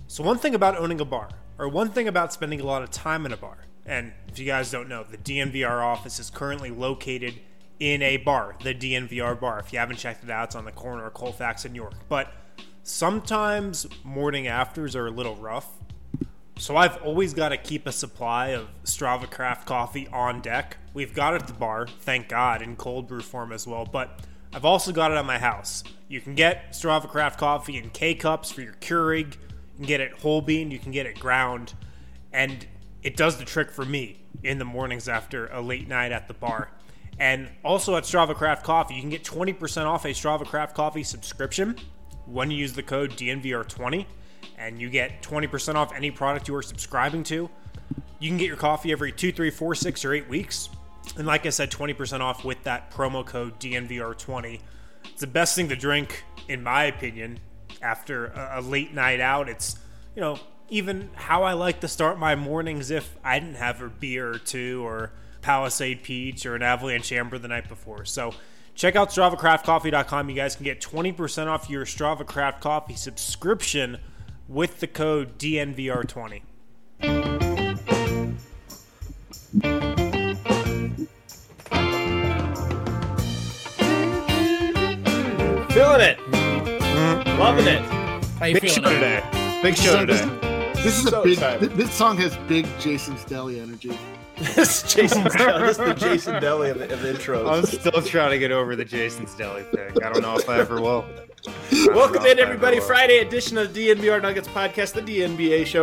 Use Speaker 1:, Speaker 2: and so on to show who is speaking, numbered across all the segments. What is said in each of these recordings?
Speaker 1: So one thing about owning a bar, or one thing about spending a lot of time in a bar, and if you guys don't know, the DNVR office is currently located in a bar, the DNVR bar. If you haven't checked it out, it's on the corner of Colfax and York. But sometimes morning afters are a little rough. So I've always got to keep a supply of Strava Craft coffee on deck. We've got it at the bar, thank God, in cold brew form as well. But I've also got it at my house. You can get Strava Craft coffee in K-Cups for your Keurig. You can get it whole bean, you can get it ground. And it does the trick for me in the mornings after a late night at the bar. And also at Strava Craft Coffee, you can get 20% off a Strava Craft Coffee subscription when you use the code DNVR20. And you get 20% off any product you are subscribing to. You can get your coffee every 2, 3, 4, 6, or 8 weeks. And like I said, 20% off with that promo code DNVR20. It's the best thing to drink, in my opinion, after a late night out. It's, even how I like to start my mornings if I didn't have a beer or two, or Palisade Peach, or an Avalanche Amber the night before. So check out StravaCraftCoffee.com. You guys can get 20% off your Strava Craft Coffee subscription with the code DNVR20.
Speaker 2: Feeling it. Loving it.
Speaker 3: How you feeling
Speaker 1: today? Big show today.
Speaker 4: This is
Speaker 2: So
Speaker 4: a big.
Speaker 2: excited.
Speaker 4: This song has big Jason's Deli energy.
Speaker 2: This is Jason's Deli. This is the Jason Deli of the intros.
Speaker 1: I'm still trying to get over the Jason's Deli thing. I don't know if I ever will.
Speaker 2: Welcome in, everybody. Friday edition of the DNVR Nuggets podcast, the DNBA show.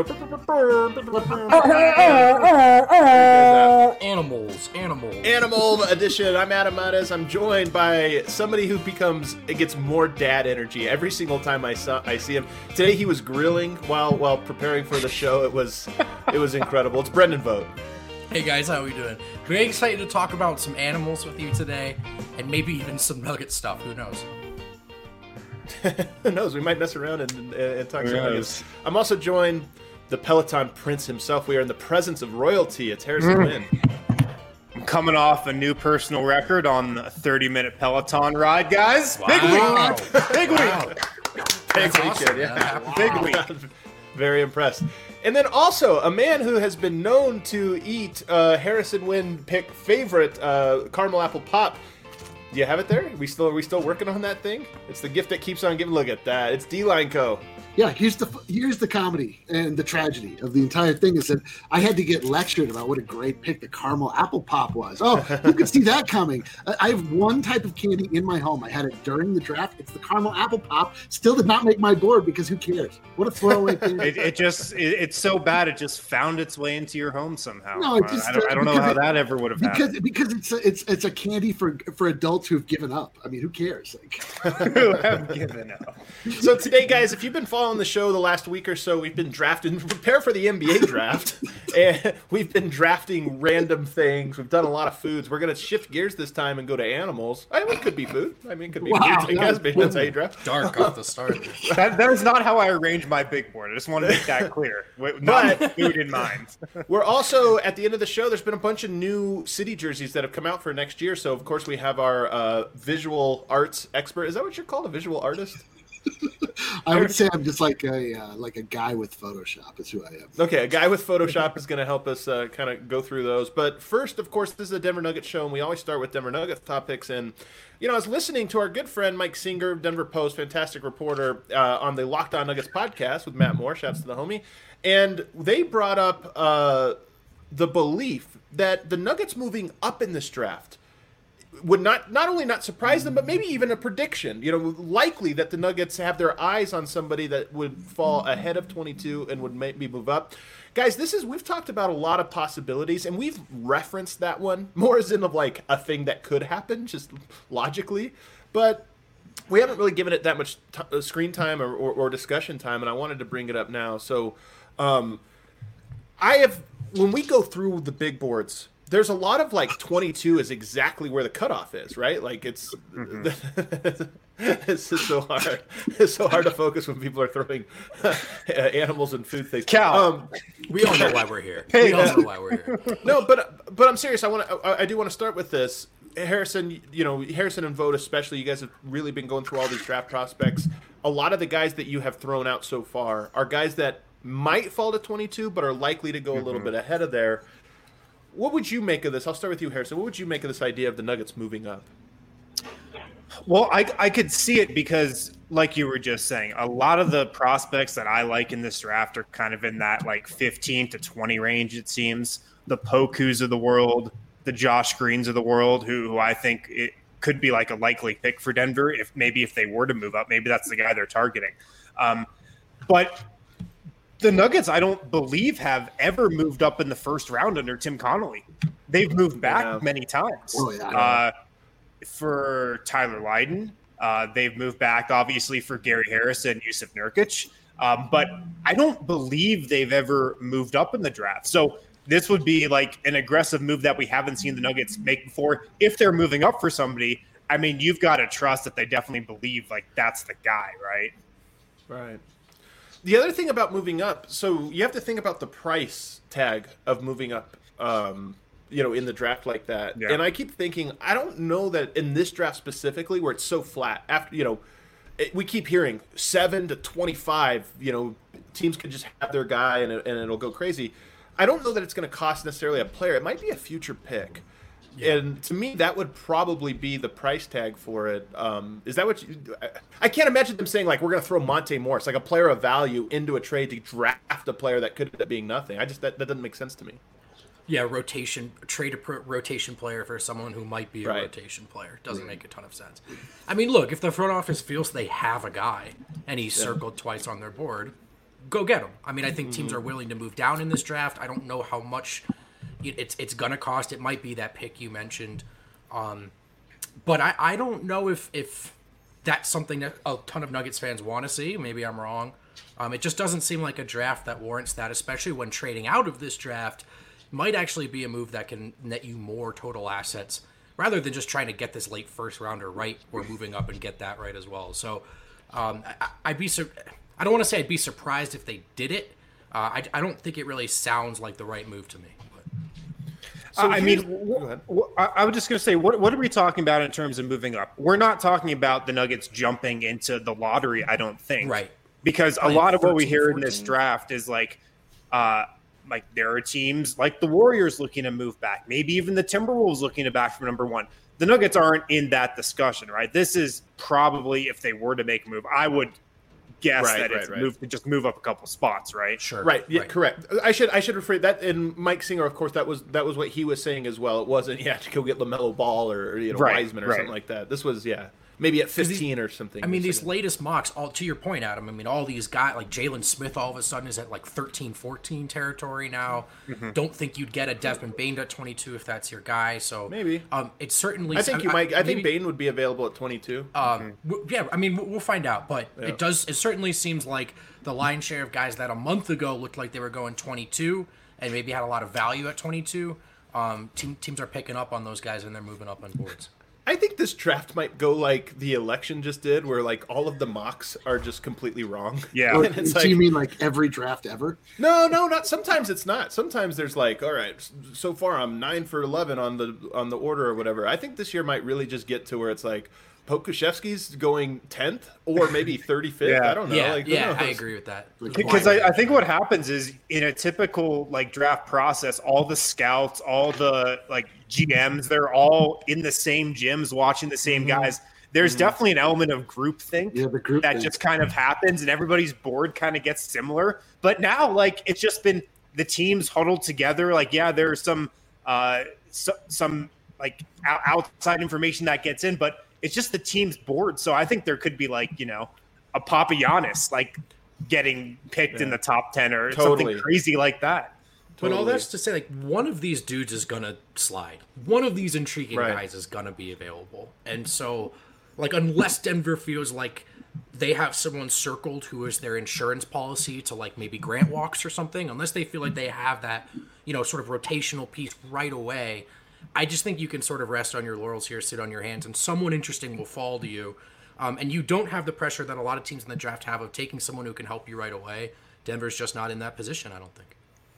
Speaker 2: Animal edition. I'm Adam Mares. I'm joined by somebody who gets more dad energy every single time I see him. Today he was grilling while preparing for the show. It was incredible. It's Brendan Vogt.
Speaker 3: Hey guys, how are we doing? Very excited to talk about some animals with you today, and maybe even some Nugget stuff. Who knows?
Speaker 2: Who knows? We might mess around and talk some Nuggets. I'm also joined the Peloton Prince himself. We are in the presence of royalty. It's Harrison Wynn.
Speaker 1: I'm coming off a new personal record on a 30-minute Peloton ride, guys.
Speaker 3: Wow.
Speaker 1: Big week. Big week.
Speaker 3: Wow.
Speaker 2: Big
Speaker 3: That's
Speaker 2: weekend,
Speaker 3: awesome,
Speaker 2: yeah.
Speaker 3: man.
Speaker 1: Big week.
Speaker 2: Very impressed. And then also a man who has been known to eat Harrison Wynn pick favorite caramel apple pop. Do you have it there? Are we still working on that thing? It's the gift that keeps on giving. Look at that. It's D-Line Co.
Speaker 4: Yeah, here's the comedy and the tragedy of the entire thing is that I had to get lectured about what a great pick the caramel apple pop was. Oh, who could see that coming? I have one type of candy in my home. I had it during the draft. It's the caramel apple pop. Still did not make my board because who cares? What a throwaway thing.
Speaker 1: It's so bad it just found its way into your home somehow.
Speaker 4: No, it just,
Speaker 1: I don't know how that ever would have happened.
Speaker 4: Because it's a candy for adults who've given up. I mean, who cares?
Speaker 1: Who have given up.
Speaker 2: So today, guys, if you've been following the show the last week or so, we've been drafting, prepare for the NBA draft, and we've been drafting random things. We've done a lot of foods. We're going to shift gears this time and go to animals. I mean, it could be food. I mean, it could be food. I guess that's how you draft.
Speaker 3: Dark off the start.
Speaker 1: That is not how I arrange my big board. I just want to make that clear. Not with food in mind.
Speaker 2: We're also, at the end of the show, there's been a bunch of new city jerseys that have come out for next year. So, of course, we have our visual arts expert. Is that what you're called, a visual artist?
Speaker 4: I would say I'm just like a guy with Photoshop is who I am.
Speaker 2: Okay, a guy with Photoshop is going to help us kind of go through those. But first, of course, this is a Denver Nuggets show, and we always start with Denver Nuggets topics. And, I was listening to our good friend Mike Singer, Denver Post, fantastic reporter, on the Locked On Nuggets podcast with Matt Moore. Shouts to the homie. And they brought up the belief that the Nuggets moving up in this draft would not only not surprise them, but maybe even a prediction. Likely that the Nuggets have their eyes on somebody that would fall ahead of 22 and would maybe move up. Guys, we've talked about a lot of possibilities, and we've referenced that one more as in of like a thing that could happen, just logically. But we haven't really given it that much screen time or discussion time, and I wanted to bring it up now. So, when we go through the big boards, there's a lot of 22 is exactly where the cutoff is, right? Like it's it's just so hard. It's so hard to focus when people are throwing animals and food things.
Speaker 1: Cal,
Speaker 3: We all know why we're here. We all know why we're here.
Speaker 2: No, but I'm serious. I do want to start with this. Harrison, Harrison and Vogt especially, you guys have really been going through all these draft prospects. A lot of the guys that you have thrown out so far are guys that might fall to 22, but are likely to go a little bit ahead of there. What would you make of this? I'll start with you, Harrison. What would you make of this idea of the Nuggets moving up?
Speaker 1: Well, I could see it because, like you were just saying, a lot of the prospects that I like in this draft are kind of in that like 15 to 20 range, it seems. The Pokus of the world, the Josh Greens of the world, who I think it could be like a likely pick for Denver if they were to move up. Maybe that's the guy they're targeting. But the Nuggets, I don't believe, have ever moved up in the first round under Tim Connolly. They've moved back many times.
Speaker 4: Oh, yeah.
Speaker 1: For Tyler Lydon, they've moved back, obviously, for Gary Harris and Yusuf Nurkic. But I don't believe they've ever moved up in the draft. So this would be like an aggressive move that we haven't seen the Nuggets make before. If they're moving up for somebody, I mean, you've got to trust that they definitely believe like that's the guy, right?
Speaker 2: Right. The other thing about moving up, so you have to think about the price tag of moving up, in the draft like that. Yeah. And I keep thinking, I don't know that in this draft specifically where it's so flat. After we keep hearing 7 to 25. Teams could just have their guy and it'll go crazy. I don't know that it's going to cost necessarily a player. It might be a future pick. Yeah. And to me, that would probably be the price tag for it. Is that what I can't imagine them saying, like, we're going to throw Monte Morris, like a player of value, into a trade to draft a player that could end up being nothing. That doesn't make sense to me.
Speaker 3: Yeah, trade a rotation player for someone who might be a rotation player. Doesn't make a ton of sense. I mean, look, if the front office feels they have a guy and he's circled twice on their board, go get him. I mean, I think teams are willing to move down in this draft. I don't know how much it's going to cost. It might be that pick you mentioned. But I don't know if that's something that a ton of Nuggets fans want to see. Maybe I'm wrong. It just doesn't seem like a draft that warrants that, especially when trading out of this draft might actually be a move that can net you more total assets rather than just trying to get this late first rounder right or moving up and get that right as well. So I don't want to say I'd be surprised if they did it. I don't think it really sounds like the right move to me.
Speaker 1: So I was just going to say, what are we talking about in terms of moving up? We're not talking about the Nuggets jumping into the lottery, I don't think.
Speaker 3: Right.
Speaker 1: Because a lot of what we hear in this draft is like there are teams like the Warriors looking to move back. Maybe even the Timberwolves looking to back from number one. The Nuggets aren't in that discussion, right? This is probably, if they were to make a move, I would guess just move up a couple spots, right?
Speaker 3: Sure.
Speaker 2: Right. Yeah, correct. I should rephrase that. And Mike Singer, of course, that was what he was saying as well. It wasn't to go get LaMelo Ball or Wiseman or something like that. This was maybe at 15 or something.
Speaker 3: I mean, these latest mocks, all to your point, Adam. I mean, all these guys like Jalen Smith, all of a sudden is at like 13-14 territory now. Mm-hmm. Don't think you'd get a Desmond Bane at 22 if that's your guy. So
Speaker 2: maybe
Speaker 3: it's certainly.
Speaker 2: I think you might. I think Bane would be available at 22.
Speaker 3: Yeah, I mean, we'll find out, but it certainly seems like the lion's share of guys that a month ago looked like they were going 22 and maybe had a lot of value at 22. Teams are picking up on those guys and they're moving up on boards.
Speaker 2: I think this draft might go like the election just did, where like all of the mocks are just completely wrong.
Speaker 1: Yeah.
Speaker 4: So you mean like every draft ever?
Speaker 2: No, not. Sometimes it's not. Sometimes there's like, all right, so far I'm 9 for 11 on the order or whatever. I think this year might really just get to where it's like Pokusevski's going 10th or maybe 35th.
Speaker 1: Yeah.
Speaker 2: I don't know.
Speaker 3: I agree with that.
Speaker 1: Because I think what happens is in a typical like draft process, all the scouts, all the like GMs, they're all in the same gyms watching the same guys. There's definitely an element of groupthink that just kind of happens and everybody's board kind of gets similar. But now like it's just been the teams huddled together. Like, there's some like outside information that gets in, but it's just the team's board. So I think there could be like, a Papagiannis like getting picked in the top 10 or something crazy like that.
Speaker 3: But all that's to say, like, one of these dudes is going to slide. One of these intriguing guys is going to be available. And so, like, unless Denver feels like they have someone circled who is their insurance policy to, like, maybe grant walks or something, unless they feel like they have that, sort of rotational piece right away, I just think you can sort of rest on your laurels here, sit on your hands, and someone interesting will fall to you. And you don't have the pressure that a lot of teams in the draft have of taking someone who can help you right away. Denver's just not in that position, I don't think.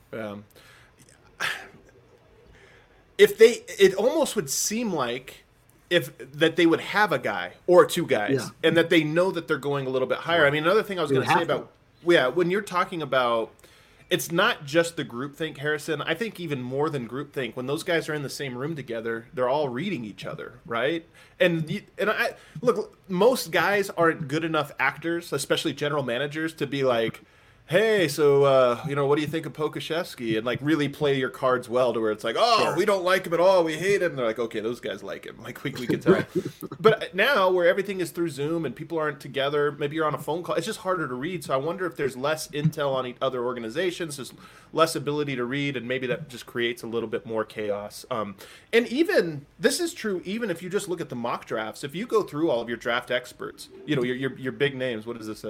Speaker 2: It almost would seem like that they would have a guy or two guys, and that they know that they're going a little bit higher. I mean, another thing I was going to say about when you're talking about, it's not just the groupthink, Harrison. I think even more than groupthink, when those guys are in the same room together, they're all reading each other, right? And I look, most guys aren't good enough actors, especially general managers, to be like, hey, so what do you think of Pokashevsky? And like really play your cards well to where it's like, we don't like him at all, we hate him. And they're like, okay, those guys like him. Like we can tell. But now where everything is through Zoom and people aren't together, maybe you're on a phone call, it's just harder to read. So I wonder if there's less intel on other organizations, there's less ability to read, and maybe that just creates a little bit more chaos. And even this is true even if you just look at the mock drafts. If you go through all of your draft experts, your big names, what is this?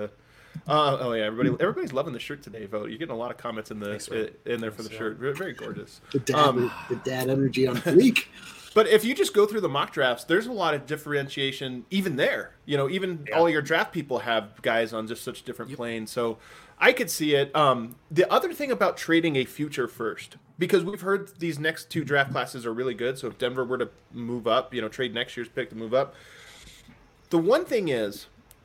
Speaker 2: Everybody's loving the shirt today, Vote. You're getting a lot of comments in there for the shirt. Very gorgeous.
Speaker 4: The dad energy on fleek.
Speaker 2: But if you just go through the mock drafts, there's a lot of differentiation even there. All your draft people have guys on just such different planes. So I could see it. The other thing about trading a future first, because we've heard these next 2 draft classes are really good. So if Denver were to move up, trade next year's pick to move up. The one thing is,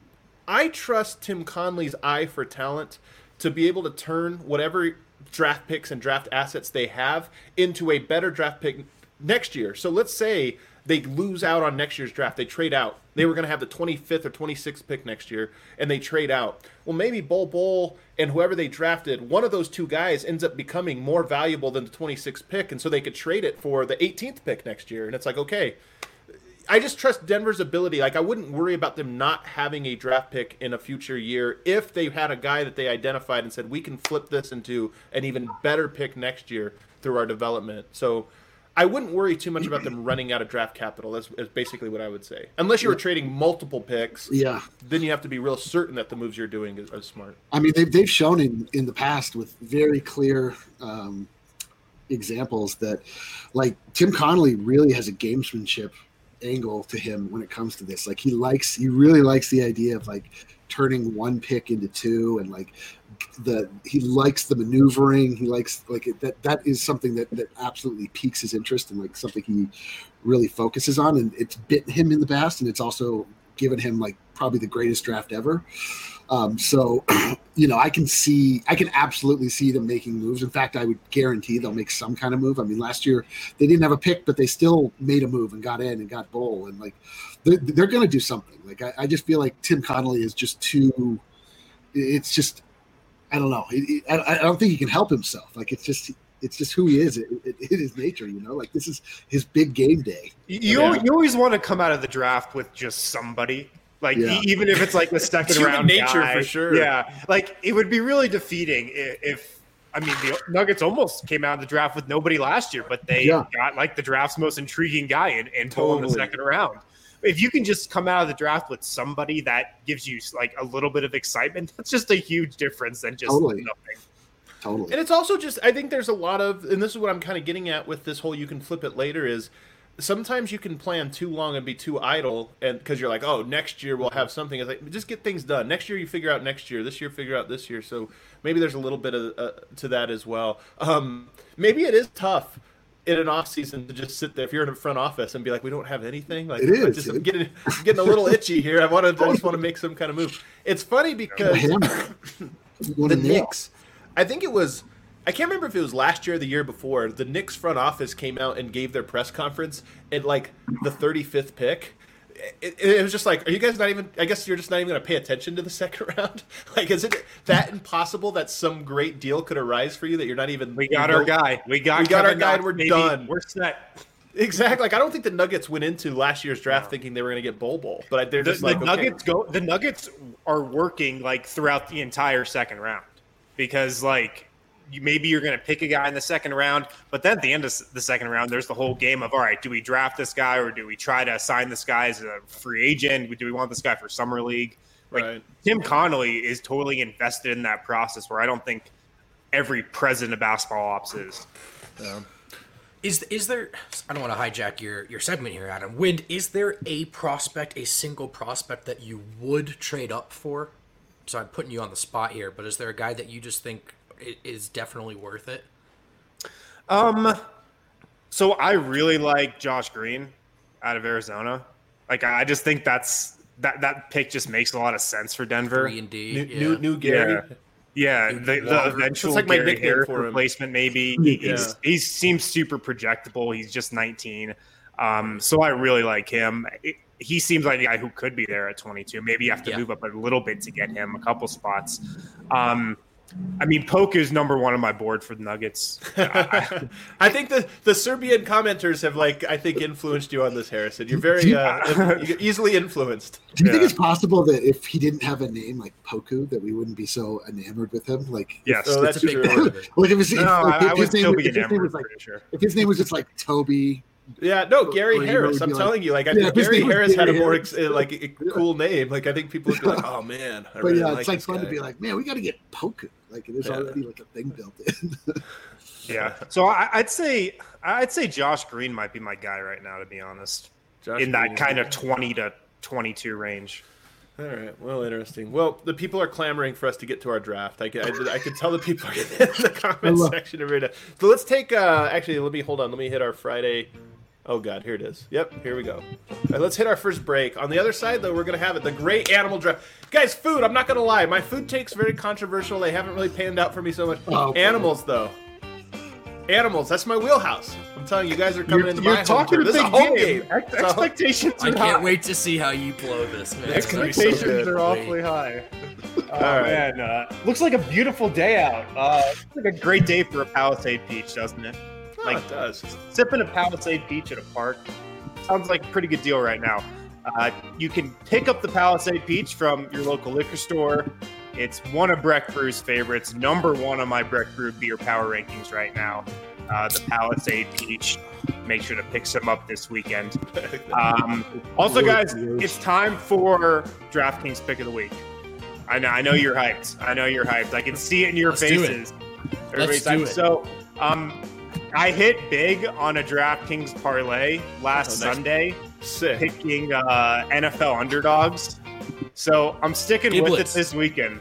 Speaker 2: I trust Tim Connelly's eye for talent to be able to turn whatever draft picks and draft assets they have into a better draft pick next year. So let's say they lose out on next year's draft. They trade out. They were going to have the 25th or 26th pick next year, and they trade out. Well, maybe Bol and whoever they drafted, one of those 2 guys ends up becoming more valuable than the 26th pick, and so they could trade it for the 18th pick next year. And it's like, okay, I just trust Denver's ability. Like, I wouldn't worry about them not having a draft pick in a future year if they had a guy that they identified and said, we can flip this into an even better pick next year through our development. So I wouldn't worry too much about them running out of draft capital. That's basically what I would say. Unless you were trading multiple picks, then you have to be real certain that the moves you're doing are smart.
Speaker 4: I mean, they've shown in the past with very clear examples that, like, Tim Connelly really has a gamesmanship angle to him when it comes to this. Like, he really likes the idea of like turning 1 pick into 2, and like he likes the maneuvering. He likes that is something that absolutely piques his interest, and like something he really focuses on, and it's bitten him in the past, and it's also given him like probably the greatest draft ever. So I can absolutely see them making moves. In fact, I would guarantee they'll make some kind of move. I mean, last year they didn't have a pick, but they still made a move and got in and got Bol, and like they're going to do something. Like, I just feel like Tim Connelly is just too. It's just, I don't know. I don't think he can help himself. Like, it's just who he is. It is nature, like this is his big game day.
Speaker 1: You always want to come out of the draft with just somebody. Like, even if it's like the second round
Speaker 2: nature
Speaker 1: guy,
Speaker 2: for sure.
Speaker 1: Yeah, like it would be really defeating if the Nuggets almost came out of the draft with nobody last year, but they got like the draft's most intriguing guy and Bol in the second round. If you can just come out of the draft with somebody that gives you like a little bit of excitement, that's just a huge difference than just nothing.
Speaker 4: Totally.
Speaker 2: And it's also just, I think there's a lot of, and this is what I'm kind of getting at with this whole you can flip it later, is sometimes you can plan too long and be too idle, and because you're like, oh, next year we'll have something. It's like, just get things done. Next year you figure out next year. This year figure out this year. So maybe there's a little bit of to that as well. Maybe it is tough in an off season to just sit there if you're in a front office and be like, we don't have anything. Like,
Speaker 4: it is.
Speaker 2: I'm getting a little itchy here. I just want to make some kind of move. It's funny because the Knicks, I think it was, I can't remember if it was last year or the year before, the Knicks front office came out and gave their press conference at like the 35th pick. It was just like, are you guys not even, I guess you're just not even going to pay attention to the second round? Like, is it that impossible that some great deal could arise for you that you're not even...
Speaker 1: We got our guy. We got
Speaker 2: our guy and we're done.
Speaker 1: We're set.
Speaker 2: Exactly. Like, I don't think the Nuggets went into last year's draft thinking they were going to get Bol. But they're just
Speaker 1: the Nuggets are working like throughout the entire second round because like maybe you're going to pick a guy in the second round, but then at the end of the second round, there's the whole game of, all right, do we draft this guy or do we try to sign this guy as a free agent? Do we want this guy for summer league? Like, right. Tim Connelly is totally invested in that process where I don't think every president of basketball ops is.
Speaker 3: Is there, I don't want to hijack your segment here, Adam. Wind, is there a single prospect that you would trade up for? So I'm putting you on the spot here, but is there a guy that you just think is definitely worth it?
Speaker 1: So I really like Josh Green out of Arizona. Like, I just think that pick just makes a lot of sense for Denver.
Speaker 3: 3 and D,
Speaker 2: New Gary.
Speaker 1: Yeah, the eventual
Speaker 2: It's like my
Speaker 1: Gary
Speaker 2: nickname
Speaker 1: Harris
Speaker 2: for him.
Speaker 1: replacement, maybe.
Speaker 2: Yeah.
Speaker 1: He seems super projectable. He's just 19. So I really like him. He seems like a guy who could be there at 22. Maybe you have to move up a little bit to get him a couple spots. I mean, Poku is number one on my board for the Nuggets.
Speaker 2: I think the Serbian commenters have, I think, influenced you on this, Harrison. You're very easily influenced.
Speaker 4: Do you think it's possible that if he didn't have a name like Poku, that we wouldn't be so enamored with him?
Speaker 1: Yes,
Speaker 2: so that's
Speaker 3: a big
Speaker 2: true.
Speaker 3: part of it.
Speaker 1: I would still be enamored, pretty sure.
Speaker 4: If his name was just like Toby.
Speaker 2: Yeah, no, Gary Harris. I'm telling you, I think Gary Harris had a more a cool name. I think people would be like, "Oh man!"
Speaker 4: It's like fun to be like, "Man, we got to get Poku." There's already a thing built in.
Speaker 1: Yeah. So I'd say Josh Green might be my guy right now, to be honest. That kind of 20 to 22 range.
Speaker 2: All right. Well, interesting. Well, the people are clamoring for us to get to our draft. I could tell the people are in the comment section right now. So let's take. Actually, let me hit our Friday. Oh, God, here it is. Yep, here we go. All right, let's hit our first break. On the other side, though, we're going to have the great animal draft. Guys, food, I'm not going to lie. My food take's very controversial. They haven't really panned out for me so much. Animals, though. Animals, that's my wheelhouse. I'm telling you, guys are coming into my home. This is a home game.
Speaker 1: Expectations are
Speaker 3: I can't wait to see how you blow this, man.
Speaker 1: Expectations are awfully high. Oh, man. Looks like a beautiful day out. Looks like a great day for a Palisade peach, doesn't it?
Speaker 2: It does.
Speaker 1: Sipping a Palisade peach at a park sounds like a pretty good deal right now. You can pick up the Palisade peach from your local liquor store. It's one of Breck Brew's favorites, number one on my Breck Brew beer power rankings right now. The Palisade peach. Make sure to pick some up this weekend. Also, guys, it's time for DraftKings Pick of the Week. I know you're hyped. I can see it in your faces. Everybody's hyped. So, I hit big on a DraftKings parlay last Sunday, picking NFL underdogs. So I'm sticking with it this weekend.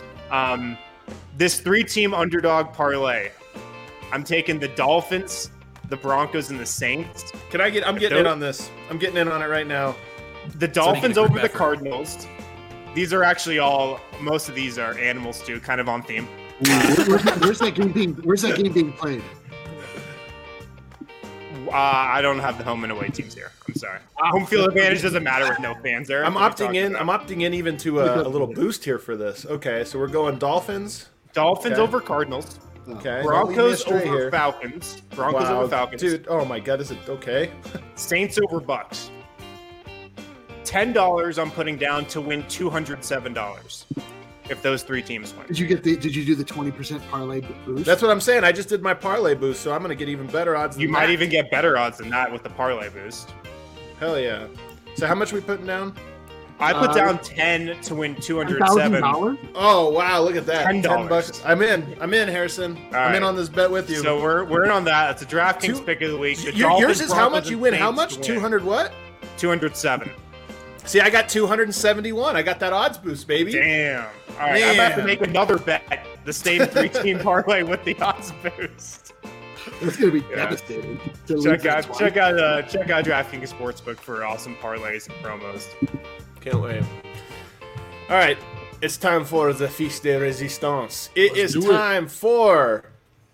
Speaker 1: This 3-team underdog parlay. I'm taking the Dolphins, the Broncos, and the Saints.
Speaker 2: I'm getting in on this. I'm getting in on it right now.
Speaker 1: The Dolphins over the Cardinals. These are actually most of these are animals too, kind of on theme.
Speaker 4: Where's that game being played?
Speaker 1: I don't have the home and away teams here. I'm sorry. Home field advantage doesn't matter with no fans there.
Speaker 2: I'm opting in even to a little boost here for this. Okay, so we're going Dolphins.
Speaker 1: Over Cardinals.
Speaker 2: Okay.
Speaker 1: Broncos over Falcons. Over Falcons.
Speaker 2: Dude, oh my God, is it okay?
Speaker 1: Saints over Bucks. $10 I'm putting down to win $207 if those 3 teams win.
Speaker 4: Did you do the 20% parlay boost?
Speaker 2: That's what I'm saying. I just did my parlay boost, so I'm going to get even better odds.
Speaker 1: You might even get better odds than that with the parlay boost.
Speaker 2: Hell yeah! So how much are we putting down?
Speaker 1: I put down 10 to win $207.
Speaker 2: Oh wow! Look at that.
Speaker 1: $10.
Speaker 2: I'm in, Harrison. I'm in on this bet with you.
Speaker 1: So we're in on that. It's a DraftKings pick of the week.
Speaker 2: Yours is how much you win? How much? 200 what?
Speaker 1: 207.
Speaker 2: See, I got 271. I got that odds boost, baby.
Speaker 1: Damn. All right, I'm about to make another bet. The same 3-team parlay with the odds boost.
Speaker 4: It's going to be devastating.
Speaker 1: Check out DraftKings Sportsbook for awesome parlays and promos.
Speaker 2: Can't wait. All right, it's time for the Feast de Resistance. It's time for...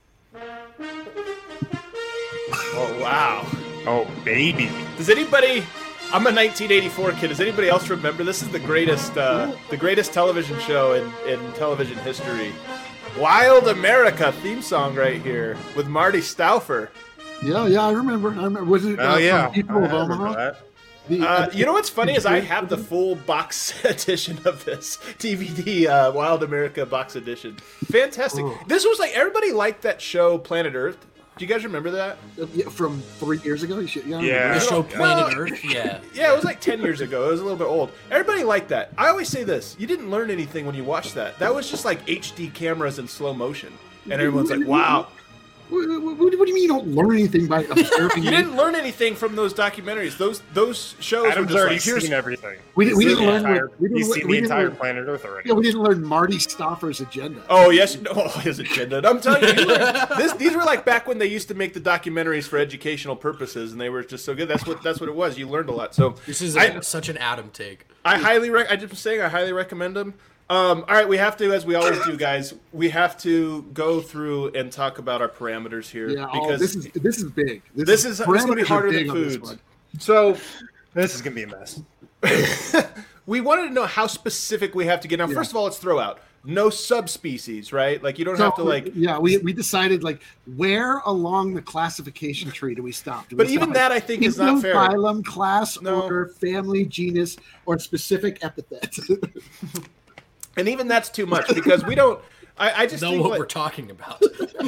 Speaker 2: Oh, wow.
Speaker 1: Oh, baby.
Speaker 2: Does anybody... I'm a 1984 kid. Does anybody else remember? This is the greatest television show in television history. Wild America theme song right here with Marty Stauffer.
Speaker 4: Yeah, I remember. Was it from People of Omaha?
Speaker 2: You know what's funny is I have the full box edition of this DVD, Wild America box edition. Fantastic. Oh. This was everybody liked that show, Planet Earth. Do you guys remember that?
Speaker 4: From 3 years ago?
Speaker 3: Yeah. The show Planet Earth? Yeah.
Speaker 2: Yeah, it was 10 years ago. It was a little bit old. Everybody liked that. I always say this. You didn't learn anything when you watched that. That was just HD cameras in slow motion. And everyone's like, wow.
Speaker 4: What do you mean you don't learn anything by observing?
Speaker 2: You didn't learn anything from those documentaries. Those shows
Speaker 1: Adam's
Speaker 2: were
Speaker 1: already
Speaker 2: just
Speaker 1: seen everything.
Speaker 4: We didn't learn.
Speaker 1: He's seen the entire Planet Earth already.
Speaker 4: Yeah, we didn't learn Marty Stauffer's agenda.
Speaker 2: Oh yes, his agenda. I'm telling you, these were back when they used to make the documentaries for educational purposes, and they were just so good. That's what it was. You learned a lot. So
Speaker 3: this is such an Adam take.
Speaker 2: I highly recommend them. All right, we have to, as we always do, guys. We have to go through and talk about our parameters here because
Speaker 4: this is big.
Speaker 2: This is going to be harder than foods. So
Speaker 1: this is going to be a mess.
Speaker 2: We wanted to know how specific we have to get. Now, first of all, let's throw out no subspecies, right? Like you don't have to like.
Speaker 4: Yeah, we decided like where along the classification tree do we stop?
Speaker 2: But even that I think is not fair.
Speaker 4: Phylum, class, order, family, genus, or specific epithet.
Speaker 2: And even that's too much because we don't. I just
Speaker 3: know
Speaker 2: think
Speaker 3: what we're talking about.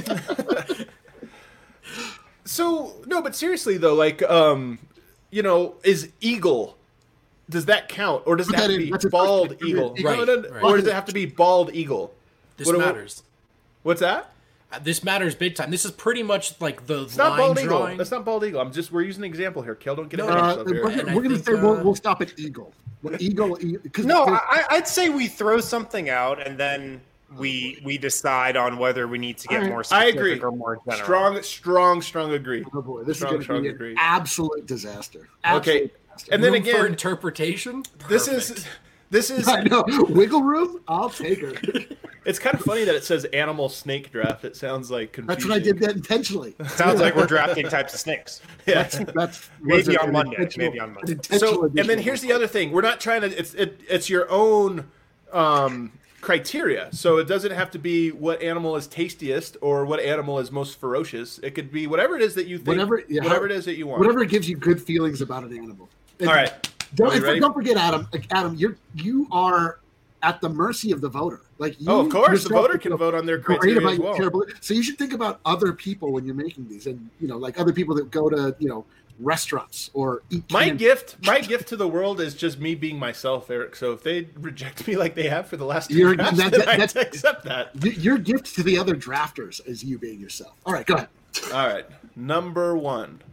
Speaker 2: So no, but seriously though, like is eagle? Does that count, or does it have to be bald eagle?
Speaker 3: Right.
Speaker 2: Or does it have to be bald eagle?
Speaker 3: This matters.
Speaker 2: What's that?
Speaker 3: This matters big time. This is pretty much like the
Speaker 2: it's not bald
Speaker 3: drawing.
Speaker 2: Eagle. That's not bald eagle. We're using an example here. Kel, don't get it.
Speaker 4: We're going to say we'll stop at eagle. Eagle.
Speaker 1: No, I'd say we throw something out and then we decide on whether we need to get more specific
Speaker 2: I agree.
Speaker 1: or more general.
Speaker 2: Strong agree.
Speaker 4: Oh boy, this is going to be an absolute disaster.
Speaker 2: Okay, and then again,
Speaker 3: for interpretation.
Speaker 2: This is.
Speaker 4: I know. Wiggle room. I'll take her.
Speaker 2: It's kind of funny that it says animal snake draft. It sounds like confusing.
Speaker 4: That's what I did that intentionally.
Speaker 1: Sounds like we're drafting types of snakes.
Speaker 2: Yeah,
Speaker 4: that's
Speaker 1: maybe on Monday.
Speaker 2: So, and then here's the other thing: we're not trying to. It's your own criteria. So it doesn't have to be what animal is tastiest or what animal is most ferocious. It could be whatever it is that you think. Whatever it is that you want.
Speaker 4: Whatever gives you good feelings about an animal.
Speaker 2: All right.
Speaker 4: Don't forget, Adam. Adam, you are at the mercy of the voter. Like
Speaker 2: of course, the voter can vote on their criteria as well.
Speaker 4: So you should think about other people when you're making these, and like other people that go to restaurants or eat.
Speaker 2: My gift to the world is just me being myself, Eric. So if they reject me like they have for the last 2 drafts, I accept that.
Speaker 4: Your gift to the other drafters is you being yourself. All right, go ahead.
Speaker 2: All right, number 1.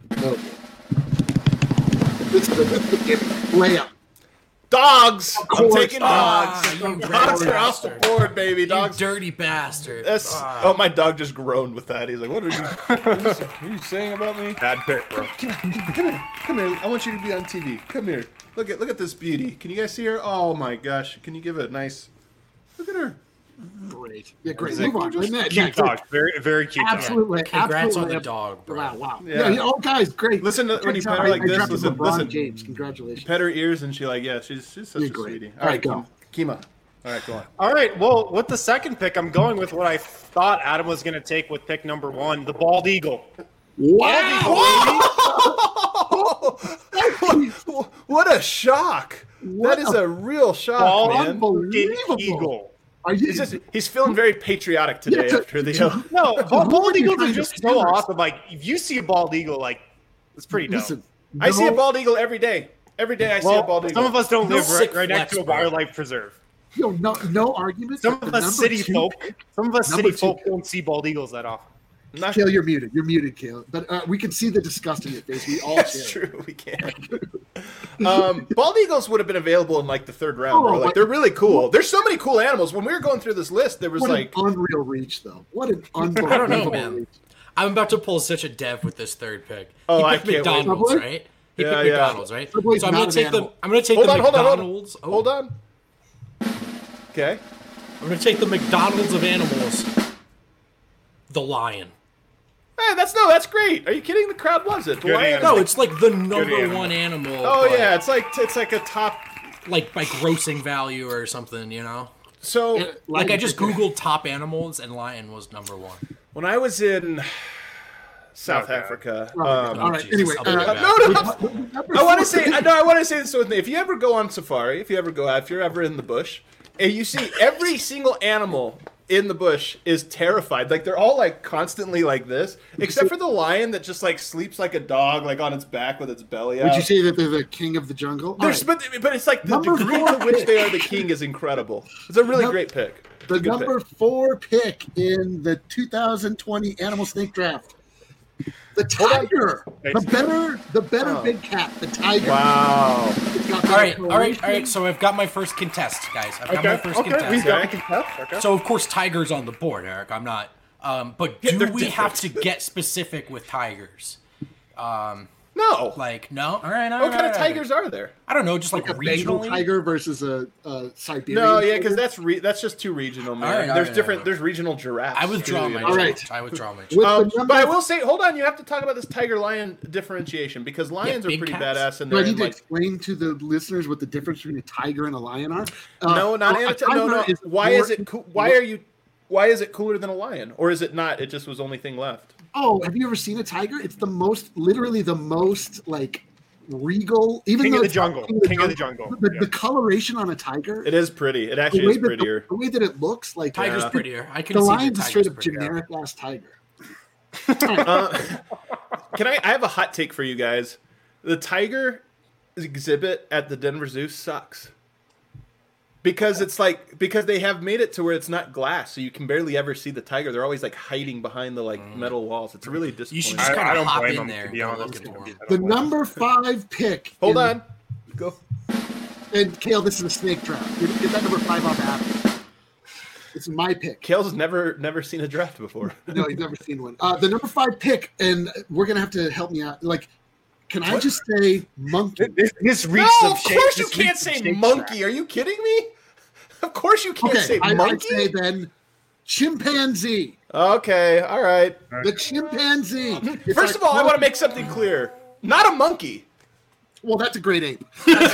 Speaker 4: Layup.
Speaker 2: Dogs. I'm taking dogs. Dogs are off the
Speaker 3: bastard.
Speaker 2: Board, baby. Dogs.
Speaker 3: You dirty bastard.
Speaker 2: Oh, my dog just groaned with that. He's like, "What are you saying about me?"
Speaker 1: Bad pick, bro.
Speaker 2: Come here. I want you to be on TV. Come here. Look at this beauty. Can you guys see her? Oh my gosh. Can you give it a nice? Look at her.
Speaker 4: Great. Yeah, great. Move on.
Speaker 1: Cute dog. Very, very cute.
Speaker 4: Absolutely.
Speaker 3: Congrats on the dog, bro.
Speaker 4: Wow.
Speaker 2: Yeah.
Speaker 4: Oh, guys, great.
Speaker 2: Listen when you pet her like this. Listen.
Speaker 4: James, congratulations.
Speaker 2: Pet her ears and she's such a sweetie.
Speaker 4: All right, go.
Speaker 2: Kima. All right, go on.
Speaker 1: All right. Well, with the second pick, I'm going with what I thought Adam was going to take with pick number 1, the bald eagle.
Speaker 4: Wow!
Speaker 2: What a shock! That is a real shock, man.
Speaker 4: Unbelievable.
Speaker 1: Eagle.
Speaker 2: He's feeling very patriotic today after the.
Speaker 1: No, bald eagles are just so awesome. Like, if you see a bald eagle, like, it's pretty dope.
Speaker 4: Listen,
Speaker 2: I see a bald eagle every day. Every day I see a bald eagle.
Speaker 1: Some of us don't live right next to a wildlife preserve.
Speaker 4: No arguments.
Speaker 1: Some of us city folk don't see bald eagles that often.
Speaker 4: Kale, you're muted. You're muted, Kale. But we can see the disgust in your face. We all
Speaker 2: That's true. We can. Bald eagles would have been available in like the 3rd round, bro. Like they're really cool. There's so many cool animals. When we were going through this list, there was
Speaker 4: an unreal reach, though. What an unbelievable
Speaker 3: I don't know, man. I'm about to pull such a dev with this 3rd pick.
Speaker 2: Oh,
Speaker 3: he picked McDonald's, right? He picked McDonald's, right? So I'm going to take the McDonald's.
Speaker 2: Hold on. Okay.
Speaker 3: I'm going to take the McDonald's of animals. The lion.
Speaker 2: Hey, that's great. Are you kidding? The crowd loves it.
Speaker 3: No, it's like the number 1 animal.
Speaker 2: Oh yeah, it's like a top,
Speaker 3: like by grossing value or something,
Speaker 2: So
Speaker 3: like I just googled top animals and lion was number 1.
Speaker 2: When I was in South Africa,
Speaker 4: all right. Anyway,
Speaker 2: I want to say this with me. If you ever go on safari, if you're ever in the bush, and you see every single animal in the bush is terrified. Like they're all like constantly like this, except for the lion that just like sleeps like a dog, like on its back with its belly out.
Speaker 4: Would you say that they're the king of the jungle?
Speaker 2: Right. But it's like the degree to which they are the king is incredible. It's a really great pick.
Speaker 4: The number 4 pick in the 2020 Animal Snake Draft. The tiger, the better big cat, the tiger.
Speaker 2: Wow!
Speaker 3: All right. So I've got my first contest, guys. I've got my first contest.
Speaker 1: We've got a contest. Okay.
Speaker 3: So of course tiger's on the board, Eric. I'm not. But do we have to get specific with tigers?
Speaker 2: No, No.
Speaker 3: Like, no? All right.
Speaker 2: What kind of tigers are there?
Speaker 3: I don't know, just like
Speaker 4: a Bengal
Speaker 3: regionally.
Speaker 4: tiger versus a Siberian.
Speaker 2: No, yeah, because
Speaker 4: tiger?
Speaker 2: that's just too regional, man.
Speaker 3: All right,
Speaker 2: there's
Speaker 3: all
Speaker 2: different.
Speaker 3: right.
Speaker 2: There's regional giraffes.
Speaker 3: I withdraw
Speaker 2: too,
Speaker 3: my
Speaker 2: you know?
Speaker 4: All
Speaker 3: choice.
Speaker 4: right.
Speaker 3: I withdraw my choice.
Speaker 4: With the number-
Speaker 2: But I will say, hold on, you have to talk about this tiger-lion differentiation because lions are
Speaker 3: big
Speaker 2: pretty
Speaker 3: cats.
Speaker 2: badass. And
Speaker 4: Do I
Speaker 2: they're
Speaker 4: need to
Speaker 2: like,
Speaker 4: explain to the listeners what the difference between a tiger and a lion are?
Speaker 2: no, not
Speaker 4: a
Speaker 2: Anata- no, no.
Speaker 4: tiger is
Speaker 2: Why
Speaker 4: more-
Speaker 2: is it? Why are you? Why is it cooler than a lion, or is it not? It just was the only thing left.
Speaker 4: Oh, have you ever seen a tiger? It's literally the most like regal. Even
Speaker 1: King
Speaker 4: though
Speaker 1: of the
Speaker 4: it's not
Speaker 1: jungle. King of the jungle.
Speaker 4: The coloration on a tiger.
Speaker 2: It is pretty. It
Speaker 4: the
Speaker 2: actually
Speaker 4: way
Speaker 2: is
Speaker 4: that
Speaker 2: prettier.
Speaker 4: the way that it looks like
Speaker 3: Tiger's prettier. I can
Speaker 4: the
Speaker 3: see
Speaker 4: lion's
Speaker 3: the
Speaker 4: a straight
Speaker 3: tiger's
Speaker 4: up
Speaker 3: prettier.
Speaker 4: generic ass tiger.
Speaker 2: Can I have a hot take for you guys? The tiger exhibit at the Denver Zoo sucks. Because because they have made it to where it's not glass, so you can barely ever see the tiger. They're always like hiding behind the metal walls. It's really disappointing.
Speaker 3: You should just kind
Speaker 1: I
Speaker 3: of
Speaker 1: don't
Speaker 3: hop
Speaker 1: blame
Speaker 3: in
Speaker 1: them,
Speaker 3: there
Speaker 1: to
Speaker 3: and
Speaker 1: be
Speaker 3: go
Speaker 1: honest.
Speaker 3: looking for him.
Speaker 4: The number 5 pick.
Speaker 2: Hold
Speaker 4: in-
Speaker 2: on. Go.
Speaker 4: And Kale, this is a snake trap. Get that number 5 off Apple. It's my pick.
Speaker 2: Kale's never seen a draft before.
Speaker 4: No, he's never seen one. The number 5 pick, and we're gonna have to help me out. Like, can I just say monkey?
Speaker 1: This
Speaker 2: No,
Speaker 1: reeks
Speaker 2: of
Speaker 1: of shake.
Speaker 2: course you
Speaker 1: this
Speaker 2: can't
Speaker 1: reeks of
Speaker 2: say
Speaker 1: shake
Speaker 2: monkey.
Speaker 1: trap.
Speaker 2: Are you kidding me? Of course you can't
Speaker 4: Okay,
Speaker 2: say
Speaker 4: I
Speaker 2: monkey.
Speaker 4: say then chimpanzee.
Speaker 2: Okay, all right.
Speaker 4: The chimpanzee. It's
Speaker 2: First
Speaker 4: like
Speaker 2: of all, I want to
Speaker 4: monkey.
Speaker 2: make something clear. Not a monkey.
Speaker 4: Well, that's a great ape.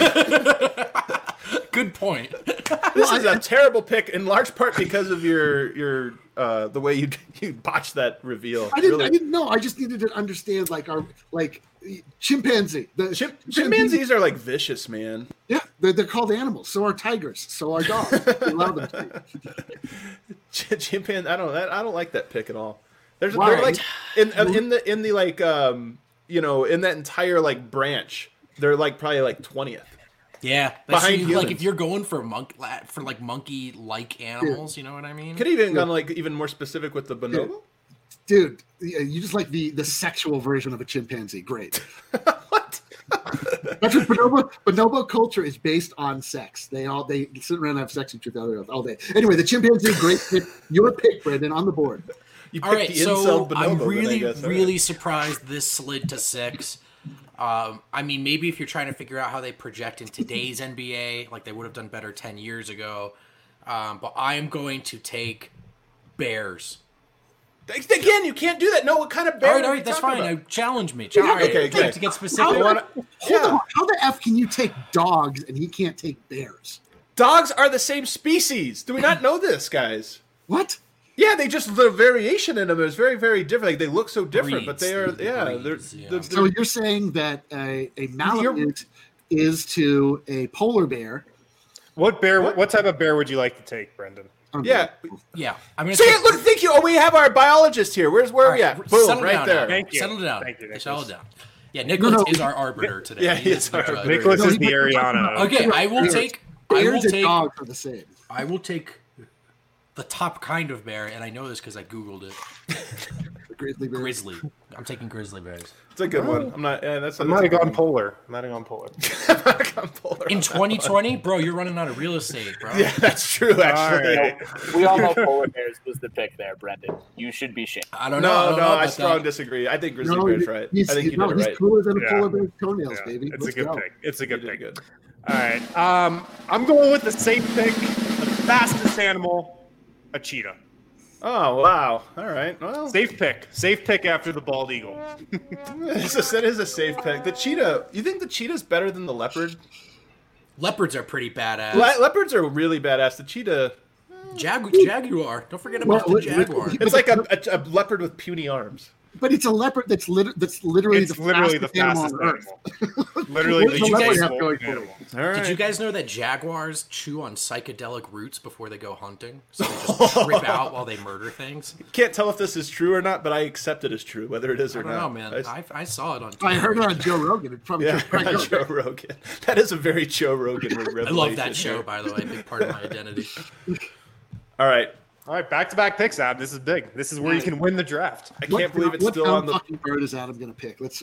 Speaker 3: Good point.
Speaker 2: This is a terrible pick, in large part because of your the way you botched that reveal.
Speaker 4: I didn't.
Speaker 2: Really.
Speaker 4: I didn't know. I just needed to understand like our chimpanzee. The
Speaker 2: Chimpanzees are like vicious, man.
Speaker 4: Yeah, they're called animals. So are tigers. So are dogs. We allow them to be.
Speaker 2: Chimpanzee. I don't like that pick at all. They're
Speaker 4: Why?
Speaker 2: like in the like in that entire like branch. They're like probably like 20th.
Speaker 3: Yeah,
Speaker 2: Behind
Speaker 3: like
Speaker 2: humans.
Speaker 3: if you're going for monkey-like animals, you know what I mean?
Speaker 2: Could have even gone like even more specific with the bonobo.
Speaker 4: Dude, you just like the sexual version of a chimpanzee. Great.
Speaker 2: What?
Speaker 4: That's what bonobo culture is based on sex. They sit around and have sex with each other all day. Anyway, the chimpanzee, great pick. Your pick, Brendan, on the board.
Speaker 2: You
Speaker 3: All
Speaker 2: picked
Speaker 3: right,
Speaker 2: the
Speaker 3: so
Speaker 2: incel bonobo.
Speaker 3: I'm
Speaker 2: then, I
Speaker 3: really,
Speaker 2: guess. All
Speaker 3: really
Speaker 2: right.
Speaker 3: surprised this slid to 6. I mean, maybe if you're trying to figure out how they project in today's NBA, like they would have done better 10 years ago. But I am going to take Bears.
Speaker 2: Again, you can't do that. No, what kind of bear?
Speaker 3: All right,
Speaker 2: are we
Speaker 3: that's
Speaker 2: talking
Speaker 3: fine.
Speaker 2: about?
Speaker 3: Challenge me.
Speaker 4: Yeah,
Speaker 3: All right,
Speaker 2: okay, okay.
Speaker 3: To get
Speaker 4: How,
Speaker 3: specific.
Speaker 4: hold on.
Speaker 2: Yeah.
Speaker 4: How the F can you take dogs and he can't take bears?
Speaker 2: Dogs are the same species. Do we not know this, guys?
Speaker 4: What?
Speaker 2: Yeah, the variation in them is very, very different. Like they look so different, but
Speaker 3: Breeds,
Speaker 2: they are
Speaker 3: the
Speaker 2: they're
Speaker 3: breeds, yeah.
Speaker 2: they're-
Speaker 4: So you're saying that a Malamute is to a polar bear?
Speaker 1: What type of bear would you like to take, Brendan?
Speaker 2: yeah.
Speaker 3: Yeah, I'm gonna
Speaker 2: See,
Speaker 3: take,
Speaker 2: look, thank you. Oh, we have our biologist here. Where are we at? Boom,
Speaker 3: settle
Speaker 2: right
Speaker 3: down
Speaker 2: there.
Speaker 3: now.
Speaker 1: Thank you.
Speaker 3: Settle down.
Speaker 1: Thank you, Nicholas.
Speaker 3: Settle down. Yeah, Nicholas
Speaker 4: No.
Speaker 3: is our arbiter today.
Speaker 2: Yeah,
Speaker 3: He is
Speaker 2: he's our
Speaker 3: the judge.
Speaker 2: arbiter.
Speaker 1: Nicholas
Speaker 4: No,
Speaker 1: is
Speaker 4: he-
Speaker 1: the Ariana.
Speaker 3: Okay, I will
Speaker 4: Bears.
Speaker 3: take.
Speaker 4: Bears and dogs are the same.
Speaker 3: I will take the top kind of bear, and I know this because I googled it.
Speaker 4: The grizzly bear.
Speaker 3: Grizzly. I'm taking grizzly bears.
Speaker 2: It's a good one. I'm not. Yeah, that's.
Speaker 1: I might have gone polar.
Speaker 3: In 2020, bro, you're running out of real estate, bro.
Speaker 2: Yeah, that's true. Actually,
Speaker 1: right.
Speaker 5: We all know polar bears was the pick there, Brendan. You should be shamed.
Speaker 3: I don't know. I
Speaker 2: no,
Speaker 3: don't know
Speaker 2: I
Speaker 3: about
Speaker 2: strong
Speaker 3: that.
Speaker 2: disagree. I think grizzly
Speaker 4: No,
Speaker 2: bear's right.
Speaker 4: he's,
Speaker 2: I think you
Speaker 4: no,
Speaker 2: did it
Speaker 4: he's
Speaker 2: right.
Speaker 4: cooler than a
Speaker 1: Yeah.
Speaker 4: polar bear's toenails,
Speaker 1: Yeah,
Speaker 4: baby.
Speaker 1: it's
Speaker 4: Let's
Speaker 1: a good
Speaker 4: go.
Speaker 1: pick. It's a
Speaker 2: You
Speaker 1: good
Speaker 2: did
Speaker 1: pick.
Speaker 2: good.
Speaker 1: All right. I'm going with the safe pick, the fastest animal, a cheetah.
Speaker 2: Oh wow! All right. Well,
Speaker 1: Safe pick after the bald eagle.
Speaker 2: that is a safe pick. The cheetah. You think the cheetah's better than the leopard?
Speaker 3: Leopards are pretty badass.
Speaker 2: Leopards are really badass. The cheetah.
Speaker 3: Jaguar. Don't forget about
Speaker 4: Well,
Speaker 3: the jaguar.
Speaker 2: It's like a leopard with puny arms.
Speaker 4: But it's a leopard that's literally
Speaker 1: It's literally the fastest
Speaker 4: animal on Earth.
Speaker 1: animal. Literally
Speaker 4: What
Speaker 1: the
Speaker 4: does
Speaker 3: a leopard
Speaker 1: fastest
Speaker 4: have going for
Speaker 1: animal.
Speaker 2: All right.
Speaker 3: Did you guys know that jaguars chew on psychedelic roots before they go hunting? So they just trip out while they murder things?
Speaker 2: Can't tell if this is true or not, but I accept it as true, whether it is or
Speaker 3: I don't
Speaker 2: not.
Speaker 3: know, man. I saw it on
Speaker 4: I
Speaker 3: TV.
Speaker 4: heard it on Joe Rogan. It probably
Speaker 2: Yeah,
Speaker 4: probably
Speaker 2: on Joe Rogan. That is a very Joe Rogan revelation.
Speaker 3: I love that show,
Speaker 2: here.
Speaker 3: by the way. Big part of my identity.
Speaker 2: All right.
Speaker 1: All right, back-to-back picks, Ab. This is big. This is where you can win the draft.
Speaker 2: I can't believe it's still on the.
Speaker 4: fucking bird is Adam going to pick? Let's.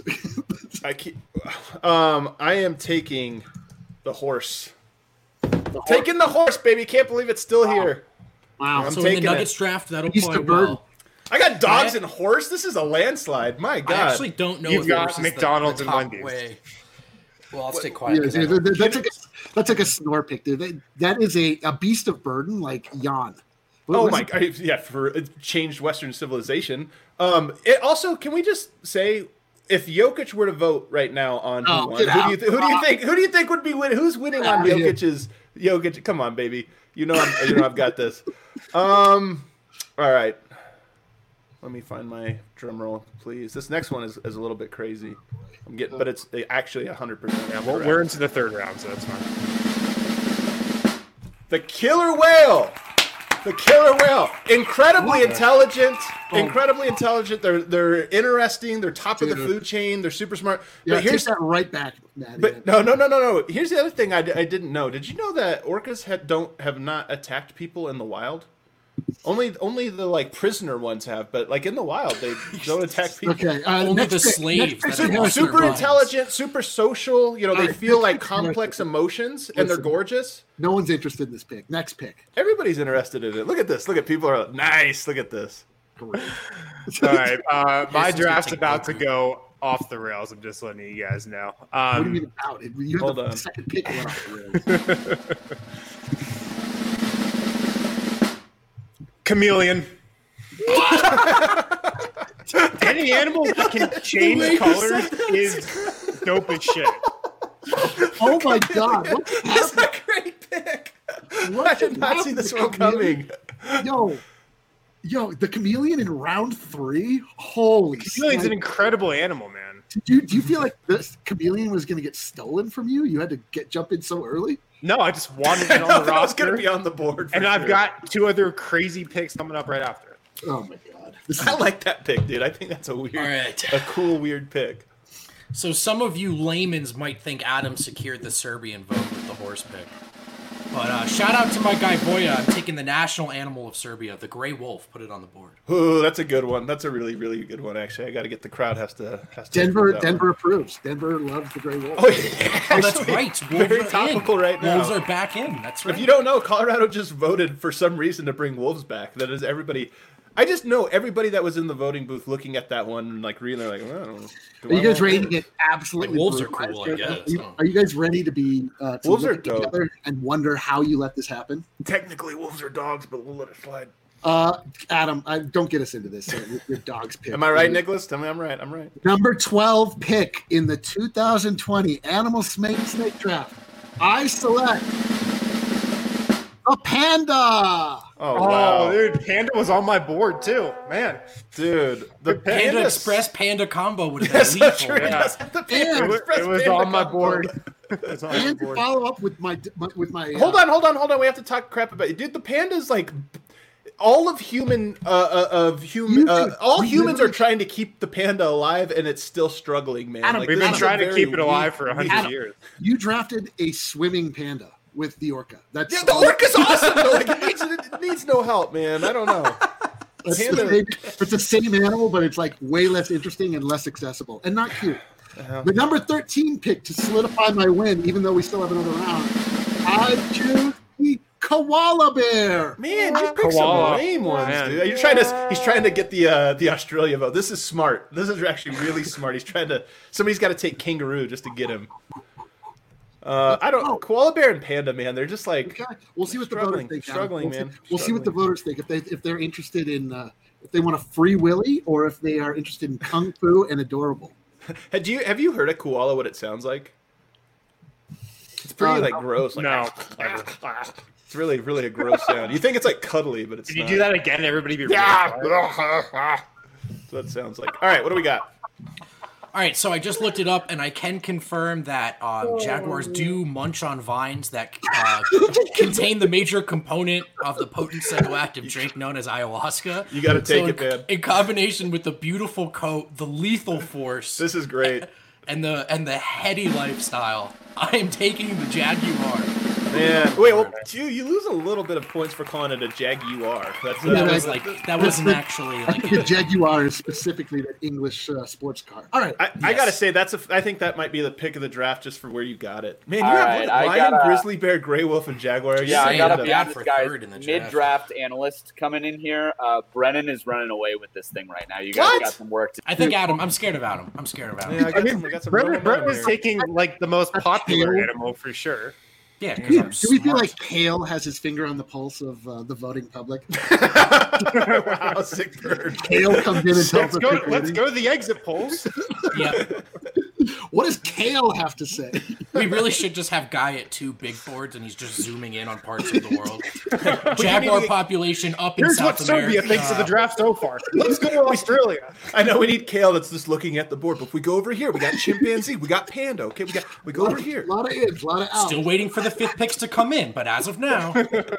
Speaker 2: I am taking the horse. Taking the horse, baby. Can't believe it's still here.
Speaker 4: Wow.
Speaker 2: I'm
Speaker 3: So in the
Speaker 2: taking
Speaker 3: Nuggets
Speaker 2: it.
Speaker 3: draft, that'll
Speaker 4: He's
Speaker 3: play
Speaker 4: the bird.
Speaker 3: well.
Speaker 2: I got dogs and horse. This is a landslide. My God.
Speaker 3: I actually don't know
Speaker 1: You've
Speaker 3: if
Speaker 1: got
Speaker 3: horse is
Speaker 1: McDonald's
Speaker 3: the
Speaker 1: and
Speaker 3: top
Speaker 1: Wendy's.
Speaker 3: way. Well, I'll stay quiet.
Speaker 4: Yeah,
Speaker 3: 'cause I
Speaker 4: dude,
Speaker 3: don't-
Speaker 4: that's like a snore pick, dude. That is a beast of burden, like yawn.
Speaker 2: Oh my God! Yeah, for it changed Western civilization. It also, can we just say, if Jokic were to vote right now on who won, who do you think would be winning? Who's winning on Jokic? Come on, baby. I've got this. All right. Let me find my drum roll, please. This next one is a little bit crazy. But it's actually 100%.
Speaker 1: Yeah, well, we're into the third round, so that's fine.
Speaker 2: The killer whale. The killer whale. Incredibly intelligent. Incredibly intelligent. They're interesting. They're top of the food chain. They're super smart.
Speaker 4: Yeah,
Speaker 2: but here's
Speaker 4: that right back, Maddie.
Speaker 2: But no. Here's the other thing I didn't know. Did you know that orcas have not attacked people in the wild? Only the like prisoner ones have, but like in the wild they don't attack people.
Speaker 4: Okay,
Speaker 3: Only the slaves. that are
Speaker 2: Super
Speaker 3: lost
Speaker 2: intelligent, super social. They feel like complex emotions, and they're gorgeous.
Speaker 4: No one's interested in this pick. Next pick.
Speaker 2: Everybody's interested in it. Look at this. Look at people are like, nice. Look at this.
Speaker 4: Great.
Speaker 1: All right, my
Speaker 3: This is
Speaker 1: draft's
Speaker 3: gonna take
Speaker 1: about to
Speaker 3: Goku.
Speaker 1: go off the rails. I'm just letting you guys know.
Speaker 4: What do you mean about it? You
Speaker 2: Hold
Speaker 4: have the
Speaker 2: on.
Speaker 4: second pick went off the rails.
Speaker 1: Chameleon. Any animal that can change colors is dope as shit.
Speaker 4: Oh my God! What
Speaker 2: That's
Speaker 4: happened?
Speaker 2: a great pick.
Speaker 4: What
Speaker 2: I did not see this one coming.
Speaker 4: Yo, the chameleon in round 3. Holy!
Speaker 1: Chameleon's an
Speaker 4: shit.
Speaker 1: incredible animal, man.
Speaker 4: Do you feel like this chameleon was going to get stolen from you? You had to jump in so early.
Speaker 1: No, I just wanted
Speaker 2: I
Speaker 1: it
Speaker 2: know
Speaker 1: on the
Speaker 2: that was going
Speaker 1: roster,
Speaker 2: to be on the board. For
Speaker 1: and I've
Speaker 2: sure.
Speaker 1: got 2 other crazy picks coming up right after.
Speaker 4: Oh my God! This is
Speaker 2: I like that pick, dude. I think that's a weird,
Speaker 3: All right.
Speaker 2: a cool, weird pick.
Speaker 3: So some of you layman's might think Adam secured the Serbian vote with the horse pick. But shout out to my guy Boya. I'm taking the national animal of Serbia, the gray wolf. Put it on the board.
Speaker 2: Ooh, that's a good one. That's a really, really good one. Actually, I got to get the crowd has to.
Speaker 4: Denver.
Speaker 2: approve that
Speaker 4: Denver
Speaker 2: one.
Speaker 4: approves. Denver loves the gray wolf.
Speaker 2: Oh, yeah,
Speaker 3: Oh, that's
Speaker 2: actually,
Speaker 3: right. Wolves
Speaker 2: Very
Speaker 3: are
Speaker 2: topical
Speaker 3: in.
Speaker 2: right now.
Speaker 3: Wolves are back in. That's right.
Speaker 2: If you don't know, Colorado just voted for some reason to bring wolves back. That is everybody. I just know everybody that was in the voting booth looking at that one and like reading. They're like, well, I don't know.
Speaker 4: Are you guys ready to get absolutely?
Speaker 3: Wolves are
Speaker 4: brutalized
Speaker 3: cool, I
Speaker 4: right now?
Speaker 3: guess.
Speaker 4: Are you guys ready to be? To
Speaker 2: Wolves
Speaker 4: look
Speaker 2: are
Speaker 4: at
Speaker 2: dope.
Speaker 4: each other and wonder how you let this happen?
Speaker 2: Technically, wolves are dogs, but we'll let it slide.
Speaker 4: Adam, don't get us into this. Your dog's pick.
Speaker 2: Am I right, Nicholas? Tell me I'm right. I'm right.
Speaker 4: Number 12 pick in the 2020 Animal Snake Draft. I select a panda.
Speaker 2: Oh, wow.
Speaker 1: dude, Panda was on my board too, man.
Speaker 2: Dude, the
Speaker 3: Panda
Speaker 2: pandas-
Speaker 3: Express Panda combo would have
Speaker 2: That's
Speaker 3: been
Speaker 2: not
Speaker 3: lethal.
Speaker 2: true.
Speaker 1: Yeah.
Speaker 2: The Panda
Speaker 4: And-
Speaker 2: Express
Speaker 1: It was
Speaker 2: Panda
Speaker 1: on my
Speaker 2: combo.
Speaker 1: board. It was on my
Speaker 4: And to
Speaker 1: board.
Speaker 4: follow up with my
Speaker 2: Hold on. We have to talk crap about it. Dude, the panda's like all of human all humans are trying to keep the panda alive and it's still struggling, man.
Speaker 4: Adam,
Speaker 2: Like,
Speaker 1: We've
Speaker 2: this
Speaker 1: been
Speaker 2: is a
Speaker 1: trying to
Speaker 2: very
Speaker 1: keep it alive
Speaker 2: weak-
Speaker 1: for 100
Speaker 4: Adam,
Speaker 1: years.
Speaker 4: You drafted a swimming panda with the orca. That's
Speaker 2: Yeah, the orca's awesome though. Like, it needs no help, man. I don't know.
Speaker 4: It's
Speaker 2: Panda-
Speaker 4: the same animal, but it's like way less interesting and less accessible and not cute. The number 13 pick to solidify my win, even though we still have another round, I choose the koala bear.
Speaker 2: Man, you picked some
Speaker 1: Koala.
Speaker 2: lame ones,
Speaker 1: Man.
Speaker 2: dude. He's trying to get the Australia vote. This is smart. This is actually really smart. Somebody's got to take kangaroo just to get him. Koala bear and panda, man. They're just like
Speaker 4: Okay, we'll see what the
Speaker 2: struggling,
Speaker 4: voters think. Adam.
Speaker 2: struggling,
Speaker 4: We'll see-
Speaker 2: man.
Speaker 4: We'll see what the
Speaker 2: Struggling.
Speaker 4: voters think if they're interested in if they want a free willy or if they are interested in kung fu and adorable.
Speaker 2: Have you heard a koala? What it sounds like? It's pretty like gross. Like,
Speaker 1: No.
Speaker 2: it's really really a gross sound. You think it's like cuddly, but it's
Speaker 1: Did you
Speaker 2: not.
Speaker 1: do that again? Everybody be
Speaker 2: Yeah.
Speaker 1: really quiet.
Speaker 2: That's what it sounds like. All right, what do we got?
Speaker 3: All right, so I just looked it up, and I can confirm that jaguars do munch on vines that contain the major component of the potent psychoactive drink known as ayahuasca.
Speaker 2: You got to take
Speaker 3: So
Speaker 2: it, man.
Speaker 3: in combination with the beautiful coat, the lethal force,
Speaker 2: This is great.
Speaker 3: and the heady lifestyle, I am taking the jaguar.
Speaker 2: Yeah. Wait, well, you lose a little bit of points for calling it a Jaguar.
Speaker 3: That wasn't actually like
Speaker 4: the Jaguar is specifically the English sports car. All right.
Speaker 2: I gotta say I think that might be the pick of the draft just for where you got it. Man, you
Speaker 5: All
Speaker 2: have
Speaker 5: right,
Speaker 2: Lion, Grizzly Bear, Gray Wolf, and Jaguar.
Speaker 5: Yeah, I got a
Speaker 3: bad
Speaker 5: this
Speaker 3: for
Speaker 5: guy's
Speaker 3: third in the draft.
Speaker 5: mid-draft analyst coming in here. Brennan is running away with this thing right now. You guys got some work to do.
Speaker 3: I think I'm scared of Adam.
Speaker 2: Yeah,
Speaker 1: I mean, Brett was taking like the most popular
Speaker 4: Kale.
Speaker 1: animal for sure.
Speaker 3: Yeah,
Speaker 4: Do we feel like Kale has his finger on the pulse of the voting public?
Speaker 2: Wow, sick bird.
Speaker 4: Kale comes in and tells us.
Speaker 1: Let's go to the exit polls.
Speaker 3: Yeah.
Speaker 4: What does Kale have to say?
Speaker 3: We really should just have Guy at 2 big boards, and he's just zooming in on parts of the world. Jaguar population up in
Speaker 1: Here's
Speaker 3: South
Speaker 1: what
Speaker 3: America.
Speaker 1: Serbia thinks of the draft so far. Let's go to Australia.
Speaker 2: I know we need Kale that's just looking at the board, but if we go over here, we got chimpanzee, we got panda. Okay, we go over here.
Speaker 4: A lot of ins, a lot of outs.
Speaker 3: Still waiting for the 5th picks to come in, but as of now,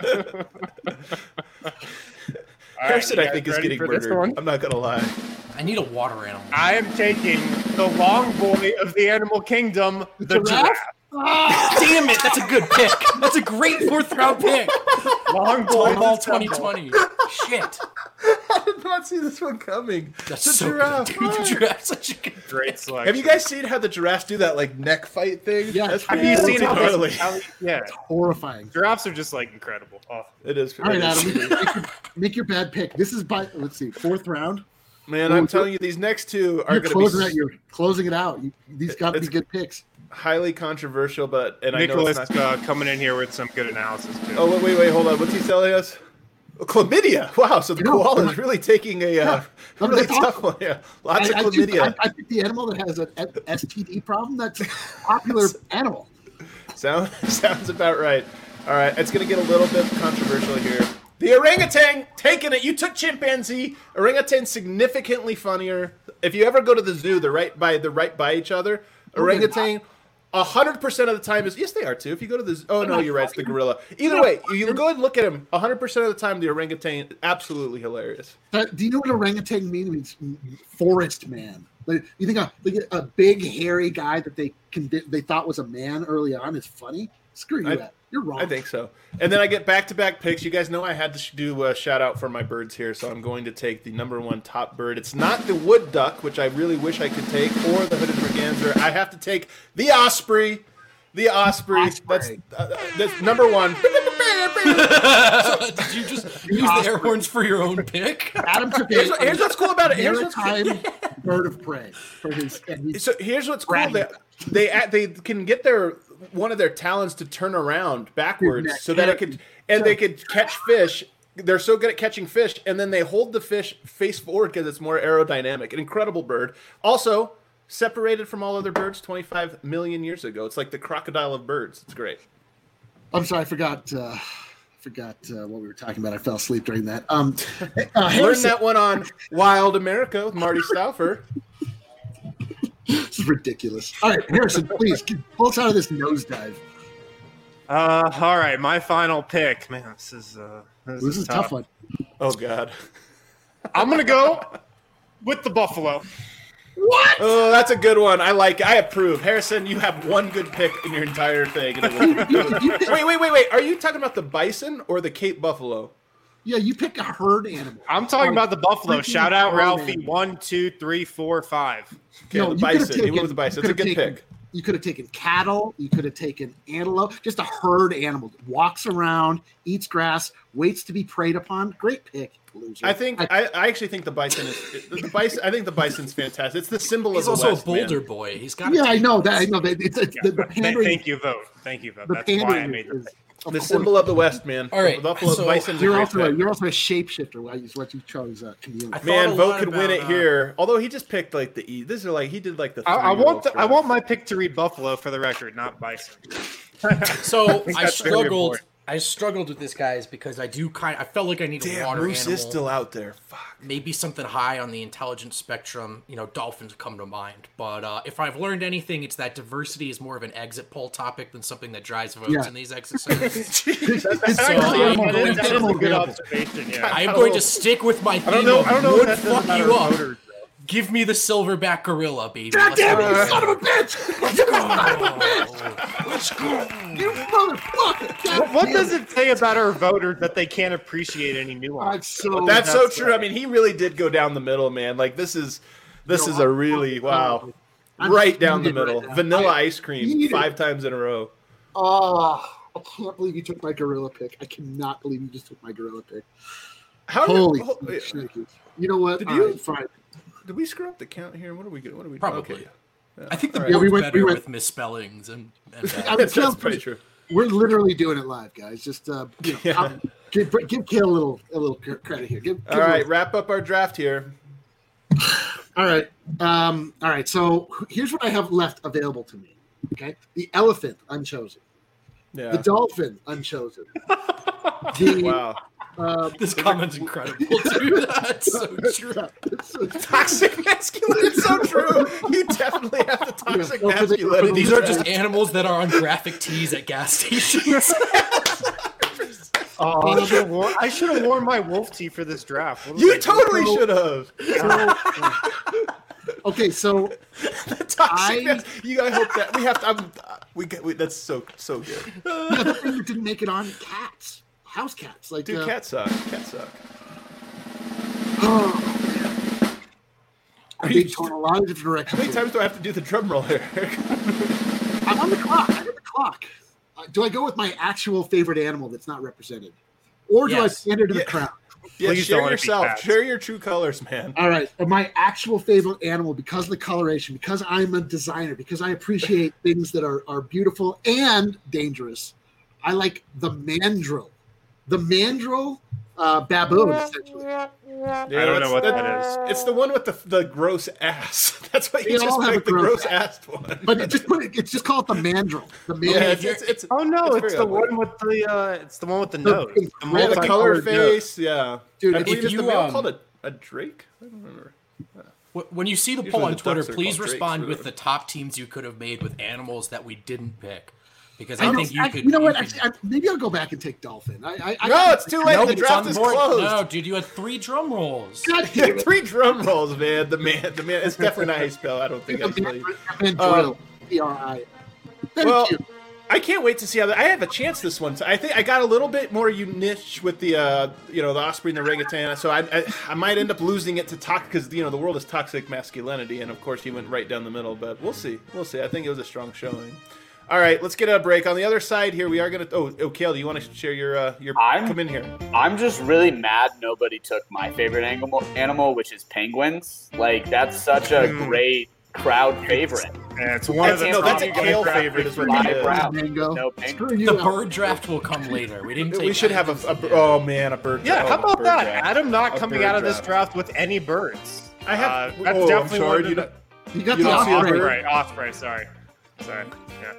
Speaker 2: Harrison,
Speaker 1: you
Speaker 2: I
Speaker 1: guys
Speaker 2: think, is
Speaker 1: ready
Speaker 2: getting
Speaker 1: for this
Speaker 2: murdered.
Speaker 1: one?
Speaker 2: I'm not gonna lie.
Speaker 3: I need a water animal.
Speaker 1: I am taking the long boy of the animal kingdom, the giraffe.
Speaker 3: Damn it, that's a good pick. That's a great 4th round pick.
Speaker 1: Long boy
Speaker 3: Ball 2020. Shit.
Speaker 2: I did not see this one coming.
Speaker 3: That's
Speaker 2: The
Speaker 3: so
Speaker 2: giraffe.
Speaker 3: good. Dude, the giraffe's such a good.
Speaker 1: Great selection.
Speaker 2: Have you guys seen how the giraffes do that like neck fight thing?
Speaker 4: Yeah.
Speaker 2: That's
Speaker 1: Have you seen how
Speaker 2: gnarly.
Speaker 1: yeah,
Speaker 4: Horrifying.
Speaker 1: giraffes are just like incredible. Oh.
Speaker 2: It is.
Speaker 4: All right,
Speaker 2: it is.
Speaker 4: Adam, make your bad pick. This is by, let's see, 4th round.
Speaker 2: Man, I'm telling you, these next two are
Speaker 4: You're
Speaker 2: going to be
Speaker 4: you're closing it out. These got to be
Speaker 2: It's-
Speaker 4: good picks.
Speaker 2: highly controversial, but I know
Speaker 1: Nicholas
Speaker 2: it's not.
Speaker 1: coming in here with some good analysis too.
Speaker 2: Oh wait, hold on. What's he telling us? Oh, chlamydia. Wow, so the
Speaker 4: No,
Speaker 2: koala is really taking a really
Speaker 4: that's
Speaker 2: tough
Speaker 4: awesome.
Speaker 2: one. Yeah, lots of
Speaker 4: I
Speaker 2: chlamydia.
Speaker 4: picked the animal that has an STD problem. That's a popular animal.
Speaker 2: Sounds about right. All right, it's going to get a little bit controversial here. The orangutan taking it. You took chimpanzee. Orangutan significantly funnier. If you ever go to the zoo, they're right by each other. Orangutan, 100% of the time is yes, they are too. If you go to the zoo, oh no, you're right, it's the gorilla. Either way, you go and look at him. 100% of the time, the orangutan absolutely hilarious.
Speaker 4: Do you know what orangutan means? It means forest man. Like, you think a big hairy guy that they thought was a man early on is funny? Screw you, Ed. You're wrong.
Speaker 2: I think so. And then I get back-to-back picks. You guys know I had to do a shout-out for my birds here, so I'm going to take the #1 top bird. It's not the wood duck, which I really wish I could take, or the hooded merganser. I have to take the osprey. The osprey. That's #1.
Speaker 3: Did you just use the air horns for your own pick?
Speaker 4: Adam took
Speaker 2: Here's what's cool about it.
Speaker 4: maritime bird of prey for his.
Speaker 2: So here's what's cool. They can get one of their talons to turn around backwards so that they could catch fish. They're so good at catching fish, and then they hold the fish face forward because it's more aerodynamic. An incredible bird. Also separated from all other birds 25 million years ago. It's like the crocodile of birds. It's great.
Speaker 4: I'm sorry, I forgot what we were talking about. I fell asleep during that.
Speaker 2: Learn that one on Wild America with Marty Stauffer.
Speaker 4: This is ridiculous. All right, Harrison, please pull us out of this nosedive.
Speaker 1: All right, my final pick. Man, this is
Speaker 4: a tough one.
Speaker 2: Oh God.
Speaker 1: I'm gonna go with the buffalo.
Speaker 4: What?
Speaker 2: Oh, that's a good one. I approve. Harrison, you have one good pick in your entire thing. Wait. Are you talking about the bison or the Cape buffalo?
Speaker 4: Yeah, you pick a herd animal.
Speaker 1: I'm talking about the buffalo.
Speaker 4: Freaking
Speaker 1: Shout out
Speaker 4: herd
Speaker 1: Ralphie.
Speaker 4: animal.
Speaker 1: 1, 2, 3, 4, 5.
Speaker 2: Okay, the bison. He went with the bison. It's a good pick.
Speaker 4: You could have taken cattle. You could have taken antelope. Just a herd animal. Walks around, eats grass, waits to be preyed upon. Great pick, loser.
Speaker 2: I actually think the bison is the bison. I think the bison's fantastic. It's the symbol
Speaker 3: He's
Speaker 2: of the
Speaker 3: also
Speaker 2: West,
Speaker 3: a Boulder
Speaker 2: man.
Speaker 3: boy. He's got.
Speaker 4: Yeah, I know that. It's the pandering.
Speaker 1: Thank you, vote. Thank you, vote.
Speaker 4: The
Speaker 1: That's why I
Speaker 4: pandering
Speaker 1: made the
Speaker 4: is
Speaker 1: pick.
Speaker 2: The symbol of the West, man.
Speaker 3: All right,
Speaker 2: the buffalo
Speaker 3: so
Speaker 2: bison's a
Speaker 4: You're
Speaker 2: great
Speaker 4: also
Speaker 2: pick.
Speaker 4: you're also a shapeshifter. Is what you chose, chameleon.
Speaker 3: I thought
Speaker 2: Man,
Speaker 3: a
Speaker 2: Vote
Speaker 3: lot
Speaker 2: could win it
Speaker 3: about,
Speaker 2: here. Although he just picked like the E. This is like he did like the.
Speaker 1: I
Speaker 2: three-year-old
Speaker 1: want my pick to read buffalo for the record, not bison.
Speaker 3: So I
Speaker 1: that's very
Speaker 3: struggled.
Speaker 1: important.
Speaker 3: I struggled with this, guys, because I felt like I need a
Speaker 2: Damn,
Speaker 3: water
Speaker 2: Moose
Speaker 3: animal.
Speaker 2: is still out there. Fuck.
Speaker 3: Maybe something high on the intelligence spectrum. Dolphins come to mind. But if I've learned anything, it's that diversity is more of an exit poll topic than something that drives votes in these exercises. So
Speaker 1: That's a good observation. Yeah.
Speaker 3: I am going to stick with my theme
Speaker 1: I don't know
Speaker 3: of would
Speaker 1: if that doesn't
Speaker 3: fuck
Speaker 1: matter
Speaker 3: you
Speaker 1: to
Speaker 3: up.
Speaker 1: voters, though.
Speaker 3: Give me the silverback gorilla, baby.
Speaker 4: God damn it, you
Speaker 3: Let's
Speaker 4: son
Speaker 3: go.
Speaker 4: of a bitch! Let's go! You motherfucker!
Speaker 1: What does it say about our voters that they can't appreciate any nuance?
Speaker 2: That's so true. I mean, he really did go down the middle, man. Like this is a really wow, right down the middle. Vanilla ice cream 5 times in a row.
Speaker 4: Oh, I can't believe you took my gorilla pick. I cannot believe you just took my gorilla pick.
Speaker 2: Holy
Speaker 4: shit. You know what? Fine.
Speaker 2: Did we screw up the count here? What are we doing? What are we
Speaker 3: Probably.
Speaker 2: Okay. Yeah.
Speaker 3: I think the
Speaker 2: All right.
Speaker 3: board's
Speaker 4: we
Speaker 3: better
Speaker 4: went-
Speaker 3: with misspellings and
Speaker 2: That's pretty true.
Speaker 4: We're literally doing it live, guys. Just give Kale a little credit here.
Speaker 2: All right, wrap up our draft here.
Speaker 4: All right. All right. So here's what I have left available to me. Okay. The elephant, unchosen.
Speaker 2: Yeah.
Speaker 4: The dolphin, unchosen.
Speaker 2: Wow.
Speaker 3: this comment's incredible, dude. That's so true.
Speaker 2: Toxic masculinity. It's so true. You definitely have the toxic masculinity.
Speaker 3: These are just animals that are on graphic tees at gas stations.
Speaker 1: Oh, I should have worn my wolf tee for this draft.
Speaker 2: You totally should have.
Speaker 4: Okay, so
Speaker 2: I hope that we have to. That's so good.
Speaker 4: yeah, the thing that didn't make it on cats, house cats, like
Speaker 2: Dude, cats suck. Cats suck.
Speaker 4: I'm being torn a lot of different directions.
Speaker 2: How many
Speaker 4: here.
Speaker 2: times do I have to do the drum roll here?
Speaker 4: I'm on the clock. I got the clock. Do I go with my actual favorite animal that's not represented, or do I pander to the crowd?
Speaker 2: Yeah,
Speaker 1: Please
Speaker 2: share
Speaker 1: don't let it be
Speaker 2: yourself.
Speaker 1: cats.
Speaker 2: Share your true colors, man.
Speaker 4: All right, my actual favorite animal, because of the coloration, because I'm a designer, because I appreciate things that are beautiful and dangerous. I like the mandrill. The mandrill baboon, essentially.
Speaker 2: Yeah,
Speaker 1: I don't know what that is.
Speaker 2: It's the one with the gross ass. That's why you
Speaker 4: They all
Speaker 2: just
Speaker 4: have
Speaker 2: picked
Speaker 4: a
Speaker 2: the
Speaker 4: gross
Speaker 2: gross ass one.
Speaker 4: But it's just called the mandrill. The mandrill.
Speaker 2: Yeah, it's
Speaker 1: Oh no,
Speaker 2: it's
Speaker 1: it's
Speaker 2: very
Speaker 1: the
Speaker 2: ugly.
Speaker 1: one with the
Speaker 4: The
Speaker 1: nose.
Speaker 4: pink-
Speaker 1: The
Speaker 2: Yeah, the color
Speaker 1: multicolored nose.
Speaker 2: face. Yeah,
Speaker 4: Dude,
Speaker 2: I
Speaker 4: if
Speaker 2: believe it's the
Speaker 3: you,
Speaker 2: male called a drake. I don't remember.
Speaker 3: When you see the
Speaker 2: Usually
Speaker 3: poll on
Speaker 2: the
Speaker 3: Twitter,
Speaker 2: ducks are
Speaker 3: please
Speaker 2: called drakes
Speaker 3: respond
Speaker 2: or
Speaker 3: with
Speaker 2: whatever.
Speaker 3: the top teams you could have made with animals that we didn't pick. Because
Speaker 4: I
Speaker 3: I
Speaker 4: know,
Speaker 3: think you could.
Speaker 4: you know what?
Speaker 3: could-
Speaker 4: Actually, maybe I'll go back and take dolphin.
Speaker 2: No, it's too late.
Speaker 3: Nope,
Speaker 2: The
Speaker 3: it's
Speaker 2: draft
Speaker 3: on the
Speaker 2: is
Speaker 3: board.
Speaker 2: closed.
Speaker 3: No, dude, you had 3 drum rolls.
Speaker 4: God damn it.
Speaker 2: 3 drum rolls, man. The man. It's definitely not how you spell. I don't think I spell you.
Speaker 4: Mandrill. PRI. Thank
Speaker 2: Well,
Speaker 4: you.
Speaker 2: I can't wait to see how I have a chance this one. So I think I got a little bit more niche with the the osprey and the orangutan. So I might end up losing it to because the world is toxic masculinity, and of course he went right down the middle. But we'll see. I think it was a strong showing. All right, let's get a break. On the other side here, we are gonna. Oh, Kale, do you want to share your? Come in here.
Speaker 5: I'm just really mad nobody took my favorite animal, which is penguins. Like that's such a great crowd favorite.
Speaker 1: Yeah, it's one of the
Speaker 2: That's a
Speaker 1: top
Speaker 2: Kale
Speaker 1: draft
Speaker 2: favorite. Is what
Speaker 5: My
Speaker 2: it is.
Speaker 5: brown.
Speaker 4: Mango.
Speaker 5: No pink.
Speaker 4: Screw you.
Speaker 3: The
Speaker 4: Al.
Speaker 3: bird draft will come later. We didn't. Take
Speaker 2: We should have
Speaker 3: animals
Speaker 2: a
Speaker 3: yet.
Speaker 2: oh man, a bird.
Speaker 1: Yeah,
Speaker 2: oh,
Speaker 1: how about
Speaker 2: bird
Speaker 1: that?
Speaker 2: draft.
Speaker 1: Adam not
Speaker 2: A
Speaker 1: coming
Speaker 2: bird
Speaker 1: out of this
Speaker 2: draft.
Speaker 1: draft with any birds.
Speaker 2: I have.
Speaker 1: That's
Speaker 2: I'm
Speaker 1: definitely
Speaker 2: sorry.
Speaker 1: one of
Speaker 2: You
Speaker 1: the-
Speaker 2: don't-
Speaker 4: You got
Speaker 2: You
Speaker 4: the
Speaker 2: don't see a
Speaker 4: osprey.
Speaker 2: bird?
Speaker 1: Osprey, sorry. Yeah.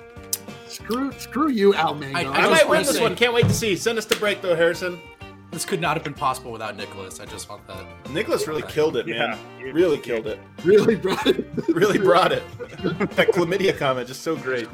Speaker 4: Screw you, Al Mango.
Speaker 3: I
Speaker 2: I
Speaker 3: just
Speaker 2: might
Speaker 3: wanna
Speaker 2: win this
Speaker 3: say-
Speaker 2: one. Can't wait to see. Send us to break though, Harrison.
Speaker 3: This could not have been possible without Nicholas. I just want that.
Speaker 2: Nicholas really killed it, man.
Speaker 1: Yeah.
Speaker 2: Really killed it.
Speaker 4: Really, bro?
Speaker 2: Really brought it. That chlamydia comment just so great.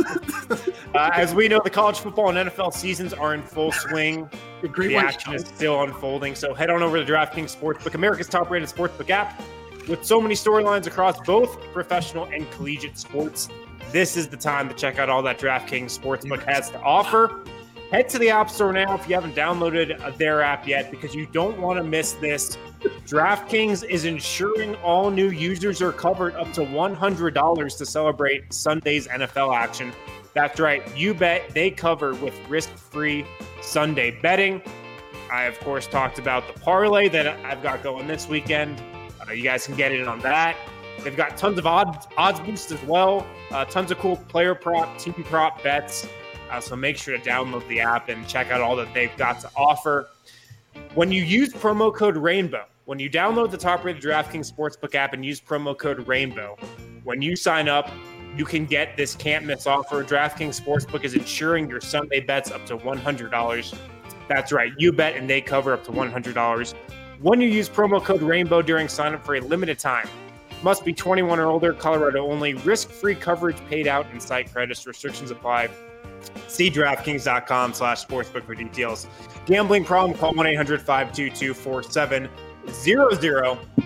Speaker 1: As we know, the college football and NFL seasons are in full swing.
Speaker 4: The great
Speaker 1: The
Speaker 4: white
Speaker 1: action is
Speaker 4: shark.
Speaker 1: still unfolding. So head on over to DraftKings Sportsbook, America's top-rated sportsbook app. With so many storylines across both professional and collegiate sports, this is the time to check out all that DraftKings Sportsbook has to offer. Head to the App Store now if you haven't downloaded their app yet, because you don't want to miss this. DraftKings is ensuring all new users are covered up to $100 to celebrate Sunday's NFL action. That's right, you bet they cover with risk-free Sunday betting. I, of course, talked about the parlay that I've got going this weekend. You guys can get in on that. They've got tons of odds boosts as well, tons of cool player prop, team prop bets. So make sure to download the app and check out all that they've got to offer. When you use promo code RAINBOW, when you download the top-rated DraftKings Sportsbook app and use promo code RAINBOW, when you sign up, you can get this can't-miss offer. DraftKings Sportsbook is insuring your Sunday bets up to $100. That's right, you bet and they cover up to $100. When you use promo code RAINBOW during sign-up for a limited time, must be 21 or older, Colorado only, risk-free coverage paid out in site credits, restrictions apply. See DraftKings.com/sportsbook for details. Gambling problem, call 1-800-522-4700.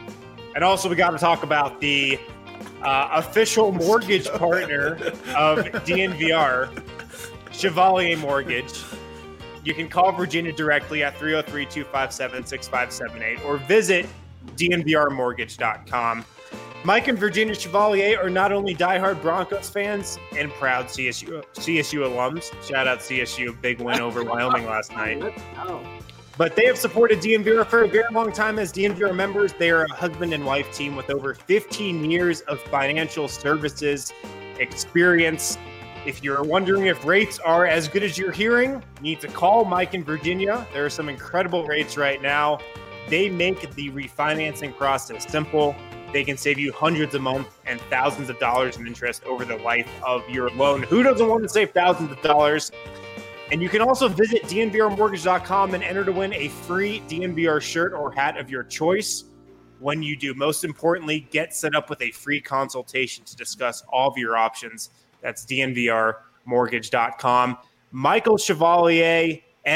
Speaker 1: And also, we got to talk about the official mortgage partner of DNVR, Chevalier Mortgage. You can call Virginia directly at 303-257-6578 or visit dnvrmortgage.com. Mike and Virginia Chevalier are not only diehard Broncos fans and proud CSU alums. Shout out CSU, big win over Wyoming last night. But they have supported DNVR for a very long time as DNVR members. They are a husband and wife team with over 15 years of financial services experience. If you're wondering if rates are as good as you're hearing, you need to call Mike and Virginia. There are some incredible rates right now. They make the refinancing process simple. They can save you hundreds a month and thousands of dollars in interest over the life of your loan. Who doesn't want to save thousands of dollars? And you can also visit dnvrmortgage.com and enter to win a free DNVR shirt or hat of your choice when you do. Most importantly, get set up with a free consultation to discuss all of your options. That's dnvrmortgage.com. Michael Chevalier,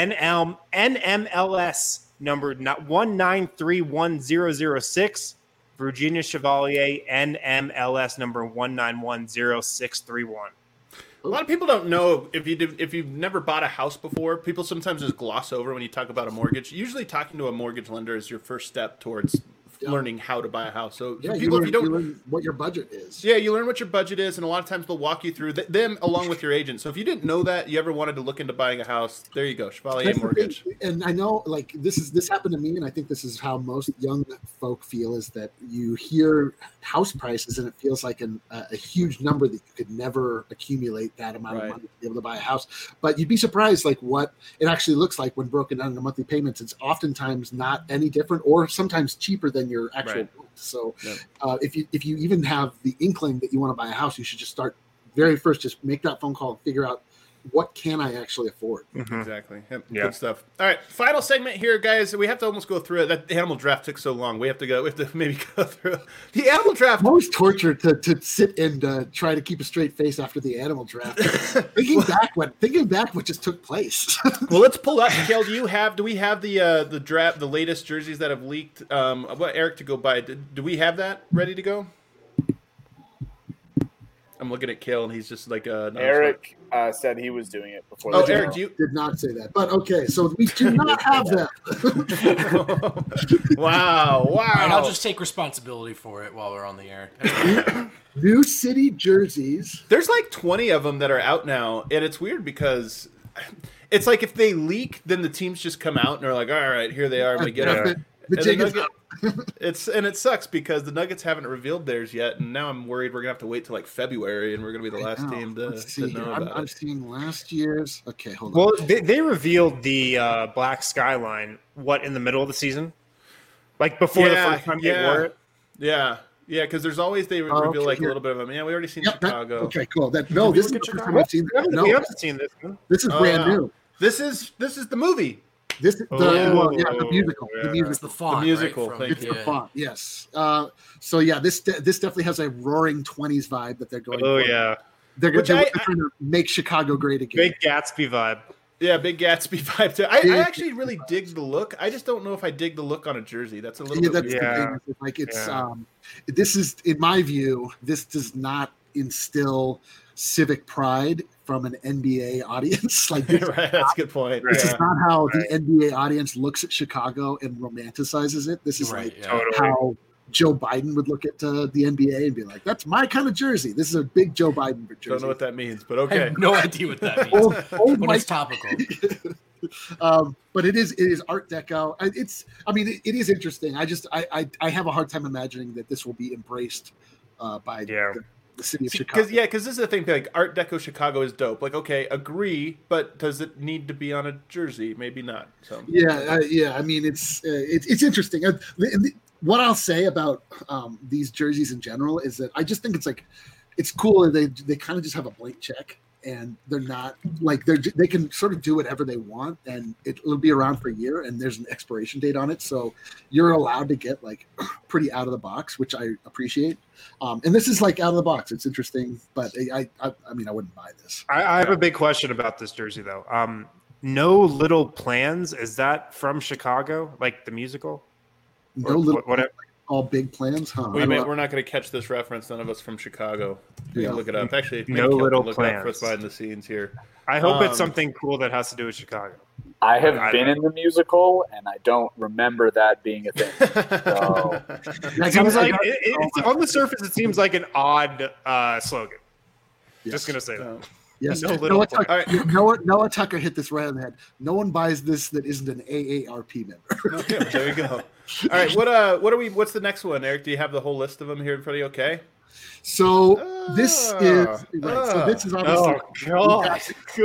Speaker 1: NMLS number 1931006. Virginia Chevalier, NMLS number 1910631.
Speaker 2: A lot of people don't know if you've never bought a house before. People sometimes just gloss over when you talk about a mortgage. Usually, talking to a mortgage lender is your first step towards learning how to buy a house. So,
Speaker 4: you learn what your budget is.
Speaker 2: Yeah, you learn what your budget is, and a lot of times they'll walk you through them along with your agent. So if you didn't know that, you ever wanted to look into buying a house, there you go, Chevalier Mortgage.
Speaker 4: And I know, like, this happened to me, and I think this is how most young folk feel, is that you hear house prices and it feels like a huge number that you could never accumulate that amount of money to be able to buy a house. But you'd be surprised, like, what it actually looks like when broken down into monthly payments. It's oftentimes not any different, or sometimes cheaper than your actual rent. So if you even have the inkling that you want to buy a house, you should just start very first, just make that phone call and figure out, what can I actually afford?
Speaker 2: Mm-hmm. Exactly. Yep. Yeah. Good stuff. All right. Final segment here, guys. We have to almost go through it. That animal draft took so long. We have to maybe go through the animal draft.
Speaker 4: It's always torture to sit and try to keep a straight face after the animal draft. thinking back what just took place.
Speaker 2: Well, let's pull up. Kale, do we have the draft, the latest jerseys that have leaked? I want Eric to go by. Do we have that ready to go? I'm looking at Kale, and he's just like
Speaker 5: Eric said he was doing it before.
Speaker 2: Oh, Eric,
Speaker 4: did not say that, but okay. So we do not have that.
Speaker 2: Wow!
Speaker 3: All right, I'll just take responsibility for it while we're on the air.
Speaker 4: New City jerseys.
Speaker 2: There's like 20 of them that are out now, and it's weird because it's like if they leak, then the teams just come out and are like, "All right, here they are." And we get it.
Speaker 4: The jig is up.
Speaker 2: It sucks because the Nuggets haven't revealed theirs yet, and now I'm worried we're gonna have to wait till like February, and we're gonna be the last team to know about it.
Speaker 4: I'm seeing last year's. Okay, hold on.
Speaker 1: Well, they revealed the black skyline in the middle of the season, like before the first time they wore it.
Speaker 2: Yeah, because there's always reveal like a little bit of them. Yeah, we already seen Chicago.
Speaker 4: Okay, cool. This is the first time I've seen that.
Speaker 1: We haven't seen this one.
Speaker 4: This is brand new.
Speaker 2: This is the movie.
Speaker 4: The musical.
Speaker 3: Yeah. It's the font.
Speaker 2: The musical.
Speaker 3: Right?
Speaker 4: It's the font. Yes. So yeah, this definitely has a roaring 20s vibe that they're going.
Speaker 1: Oh
Speaker 4: for.
Speaker 1: yeah.
Speaker 4: They're trying to make Chicago great again.
Speaker 1: Big Gatsby vibe.
Speaker 2: Yeah, big Gatsby vibe too. I actually really dig the look. I just don't know if I dig the look on a jersey. That's a little bit weird.
Speaker 4: The thing. Like it's this is, in my view, this does not instill civic pride from an NBA audience. Like
Speaker 2: right, that's a good point.
Speaker 4: This is not how the NBA audience looks at Chicago and romanticizes it. This is how Joe Biden would look at the NBA and be like, "That's my kind of jersey." This is a big Joe Biden jersey.
Speaker 2: Don't know what that means, but okay.
Speaker 3: I have no idea what that means. But it's topical.
Speaker 4: But it is Art Deco. It is interesting. I have a hard time imagining that this will be embraced by the city of Chicago.
Speaker 2: Because this is the thing. Like Art Deco Chicago is dope. Like, okay, agree, but does it need to be on a jersey? Maybe not. So
Speaker 4: I mean, it's interesting. What I'll say about these jerseys in general is that I just think it's cool. They kind of just have a blank check, and they're not like they can sort of do whatever they want, and it'll be around for a year, and there's an expiration date on it, so you're allowed to get like pretty out of the box, which I appreciate. And this is like out of the box. It's interesting, but I wouldn't buy this.
Speaker 1: I have a big question about this jersey though. No Little Plans, is that from Chicago, like the musical?
Speaker 4: No Little. all big plans, huh?
Speaker 2: We're not going to catch this reference. None of us from Chicago. We can look it up. Actually,
Speaker 1: No Little
Speaker 2: look
Speaker 1: Plans.
Speaker 2: up for us behind the scenes here.
Speaker 1: I hope it's something cool that has to do with Chicago.
Speaker 5: I have been in the musical, and I don't remember that being a thing. So.
Speaker 1: It seems like it's on the surface. It seems like an odd slogan.
Speaker 4: Yes.
Speaker 1: Just gonna say that.
Speaker 4: Yes.
Speaker 1: No Little Plans.
Speaker 4: Noah Tucker hit this right on the head. No one buys this that isn't an AARP member.
Speaker 2: Okay, there you go. All right, what are we? What's the next one, Eric? Do you have the whole list of them here in front of you? Okay.
Speaker 4: So this is obviously
Speaker 1: Oh God!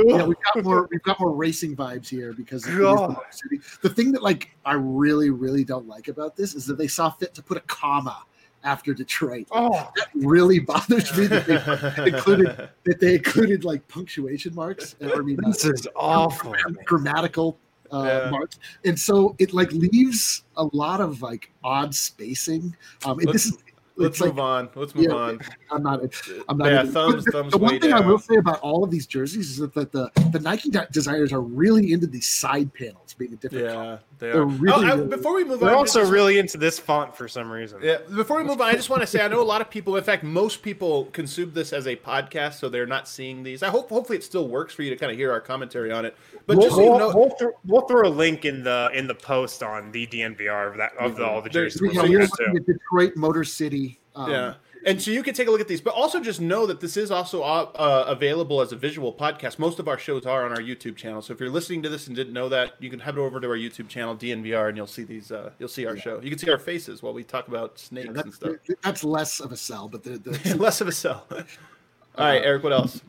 Speaker 4: we've got more racing vibes here because it is the city. The thing that I really don't like about this is that they saw fit to put a comma after Detroit.
Speaker 1: Oh.
Speaker 4: That really bothers me that they included like punctuation marks.
Speaker 1: This is awful.
Speaker 4: Grammatical marks, and so it leaves a lot of odd spacing.
Speaker 2: Let's move on.
Speaker 4: I'm not.
Speaker 2: Yeah, thumbs.
Speaker 4: The one thing I will say about all of these jerseys is that the Nike designers are really into these side panels being a different color.
Speaker 2: They are.
Speaker 4: Really,
Speaker 2: before we move on,
Speaker 1: they're also really into this font for some reason.
Speaker 2: Yeah. Before we move on, I just want to say I know a lot of people. In fact, most people consume this as a podcast, so they're not seeing these. Hopefully it still works for you to kind of hear our commentary on it. But
Speaker 1: we'll throw a link in the post on the DNVR of all the jerseys.
Speaker 4: You're looking at Detroit Motor City.
Speaker 2: And so you can take a look at these, but also just know that this is also available as a visual podcast. Most of our shows are on our YouTube channel. So if you're listening to this and didn't know that, you can head over to our YouTube channel, DNVR, and you'll see these. You'll see our show. You can see our faces while we talk about snakes and stuff.
Speaker 4: That's less of a sell, but
Speaker 2: less of a sell. All right, Eric. What else?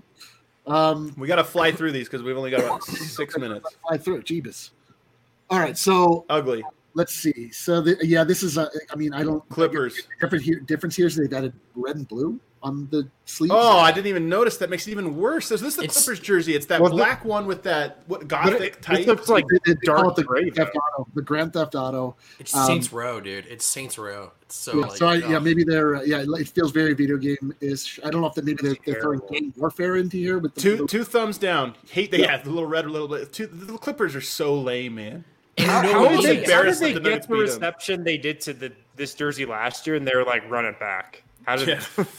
Speaker 2: We got to fly through these because we've only got about 6 minutes.
Speaker 4: Fly through it, Jeebus. All right, so
Speaker 2: ugly.
Speaker 4: Let's see. So this is. I don't.
Speaker 2: Clippers.
Speaker 4: Difference here is they've added red and blue on the sleeves.
Speaker 2: Oh, I didn't even notice. That makes it even worse. So this is the Clippers jersey. It's that black one with that gothic type.
Speaker 1: It looks like dark gray.
Speaker 4: The Grand Theft Auto.
Speaker 3: It's Saints Row, dude. It's Saints Row. It's so.
Speaker 4: Maybe they're. It feels very video game-ish. I don't know if maybe they're throwing game warfare into here. With
Speaker 2: two thumbs down. Hate they have the little red, a little bit. The Clippers are so lame, man.
Speaker 1: How did they get the reception they did to this jersey last year, and they were like, run it back? How did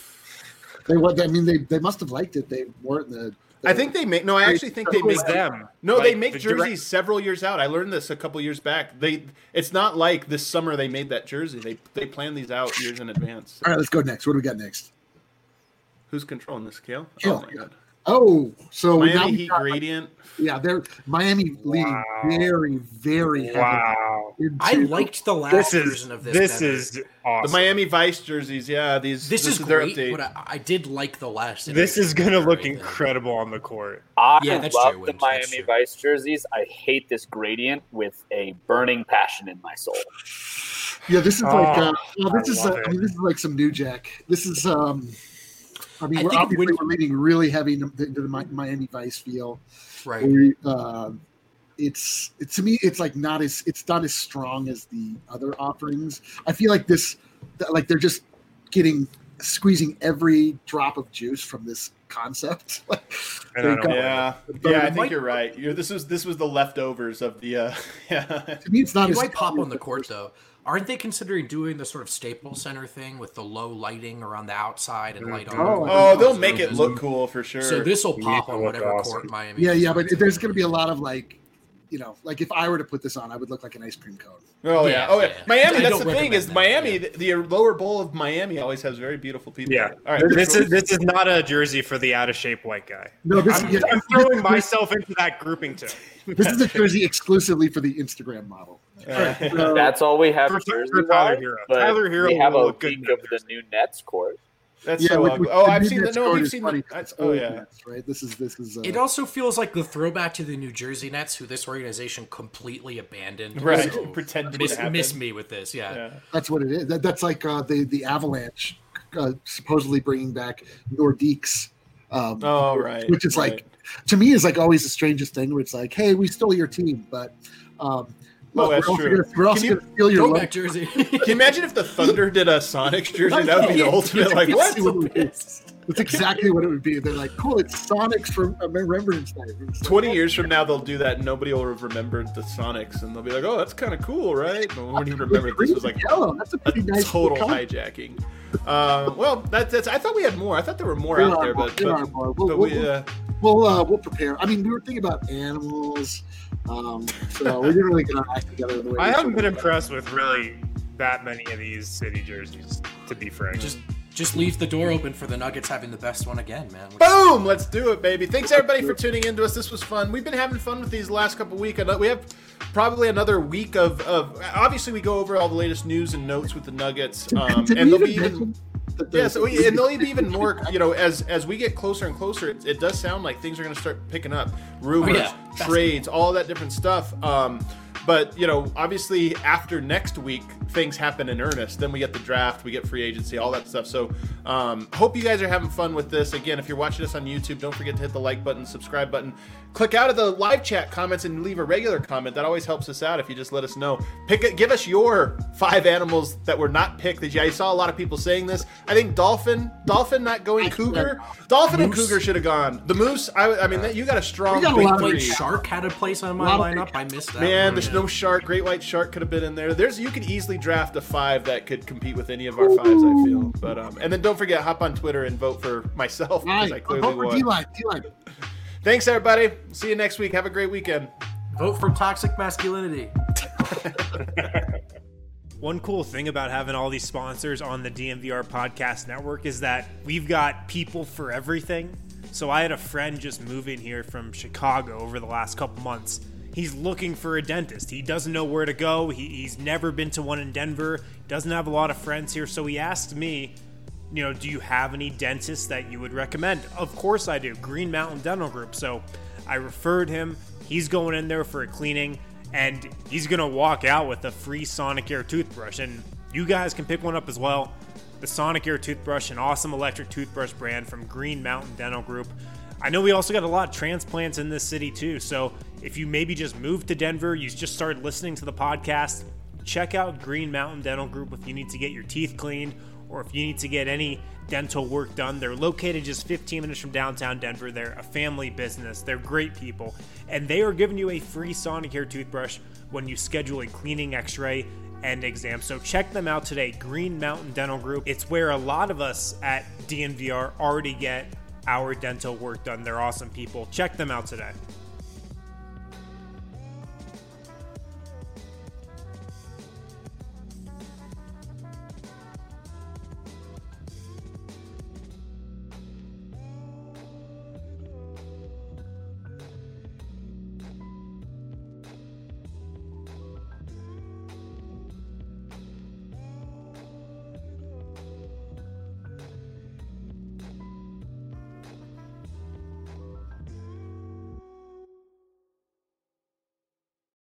Speaker 4: they must have liked it. They weren't the.
Speaker 2: I think they make. No, I actually think they make
Speaker 1: them.
Speaker 2: No, they make jerseys several years out. I learned this a couple years back. It's not like this summer they made that jersey. They plan these out years in advance.
Speaker 4: All right, let's go next. What do we got next?
Speaker 2: Who's controlling this, Kale?
Speaker 4: Oh
Speaker 2: my God.
Speaker 4: Oh, so
Speaker 2: Miami Heat gradient.
Speaker 4: They're Miami leading very, very heavy.
Speaker 1: Wow.
Speaker 3: I liked the last version of this.
Speaker 1: This is awesome.
Speaker 2: The Miami Vice jerseys, this
Speaker 3: is
Speaker 2: great,
Speaker 3: their update. But I did like the last.
Speaker 1: This is going to look incredible on the court.
Speaker 5: I love the Miami Vice jerseys. I hate this gradient with a burning passion in my soul.
Speaker 4: Yeah, this is this is like some New Jack. This is we're leaning really heavy into the Miami Vice feel.
Speaker 3: Right.
Speaker 4: It's to me, it's not as strong as the other offerings. I feel like they're just squeezing every drop of juice from this concept.
Speaker 2: I think you're right. This was the leftovers of the.
Speaker 4: To me, it's not.
Speaker 3: It might pop on the court though. Aren't they considering doing the sort of Staples Center thing with the low lighting around the outside and light on?
Speaker 2: They'll make it look cool for sure.
Speaker 3: So this will pop on whatever court Miami.
Speaker 4: Yeah, but there's going to be a lot of if I were to put this on, I would look like an ice cream cone.
Speaker 2: Oh yeah. Miami. That's the thing is Miami. The lower bowl of Miami always has very beautiful people.
Speaker 1: Yeah.
Speaker 2: All right.
Speaker 1: This is not a jersey for the out of shape white guy.
Speaker 4: No,
Speaker 1: I'm throwing myself into that grouping too.
Speaker 4: This is a jersey exclusively for the Instagram model.
Speaker 5: That's all we have.
Speaker 1: For Tyler Hero. Tyler Hero.
Speaker 5: We have a week of the new Nets court.
Speaker 2: That's so ugly. I've seen that. No, we've seen that. Oh yeah.
Speaker 4: Nets, right. This is.
Speaker 3: It also feels like the throwback to the New Jersey Nets, who this organization completely abandoned.
Speaker 2: Right.
Speaker 3: So
Speaker 2: Pretend
Speaker 3: to miss me with this. Yeah.
Speaker 4: That's what it is. That's like the Avalanche supposedly bringing back Nordiques.
Speaker 2: Right.
Speaker 4: Which is to me is always the strangest thing where it's like, hey, we stole your team, but.
Speaker 2: That's true.
Speaker 4: We're also going to steal your
Speaker 3: throwback jersey.
Speaker 2: Can you imagine if the Thunder did a Sonics jersey? That would be the ultimate. What?
Speaker 4: That's exactly what it would be. They're like, cool, it's Sonics from Remembrance Night.
Speaker 2: 20 years from now, they'll do that, and nobody will have remembered the Sonics, and they'll be like, "Oh, that's kind of cool, right?" But we won't even remember this was like
Speaker 4: yellow. That's a pretty nice
Speaker 2: total hijacking. Well, that's. I thought we had more. I thought there were more out there, but
Speaker 4: we'll prepare. I mean, we were thinking about animals, so we didn't really get our act together. The way
Speaker 1: I haven't been impressed with really that many of these city jerseys, to be frank.
Speaker 3: Just leave the door open for the Nuggets having the best one again, man.
Speaker 2: Boom! Let's do it, baby. Thanks, everybody, for tuning in to us. This was fun. We've been having fun with these last couple weeks. We have probably another week of obviously, we go over all the latest news and notes with the Nuggets. And they'll be even... Yeah, and they'll be even more, as we get closer and closer, it does sound like things are going to start picking up. Rumors, trades, all that different stuff. But, obviously after next week, things happen in earnest. Then we get the draft, we get free agency, all that stuff. So hope you guys are having fun with this. Again, if you're watching us on YouTube, don't forget to hit the like button, subscribe button. Click out of the live chat comments and leave a regular comment. That always helps us out if you just let us know. Give us your 5 animals that were not picked. I saw a lot of people saying this. I think Dolphin not going cougar. Dolphin and cougar should have gone. The moose, I mean, you got a strong big three.
Speaker 3: Shark had a place on my lineup. I missed that.
Speaker 2: Man, there's no shark. Great white shark could have been in there. You could easily draft a 5 that could compete with any of our 5s, I feel. But and then don't forget, hop on Twitter and vote for myself, because I clearly won.
Speaker 4: D-line.
Speaker 2: Thanks, everybody. See you next week. Have a great weekend.
Speaker 3: Vote for toxic masculinity.
Speaker 1: One cool thing about having all these sponsors on the DNVR podcast network is that we've got people for everything. So I had a friend just moving here from Chicago over the last couple months. He's looking for a dentist. He doesn't know where to go. He's never been to one in Denver. Doesn't have a lot of friends here. So he asked me, do you have any dentists that you would recommend? Of course I do. Green Mountain Dental Group. So I referred him. He's going in there for a cleaning, and he's going to walk out with a free Sonicare toothbrush. And you guys can pick one up as well. The Sonicare toothbrush, an awesome electric toothbrush brand from Green Mountain Dental Group. I know we also got a lot of transplants in this city too. So if you maybe just moved to Denver, you just started listening to the podcast, check out Green Mountain Dental Group if you need to get your teeth cleaned or if you need to get any dental work done. They're located just 15 minutes from downtown Denver. They're a family business. They're great people. And they are giving you a free Sonicare toothbrush when you schedule a cleaning, x-ray, and exam. So check them out today, Green Mountain Dental Group. It's where a lot of us at DNVR already get our dental work done. They're awesome people. Check them out today.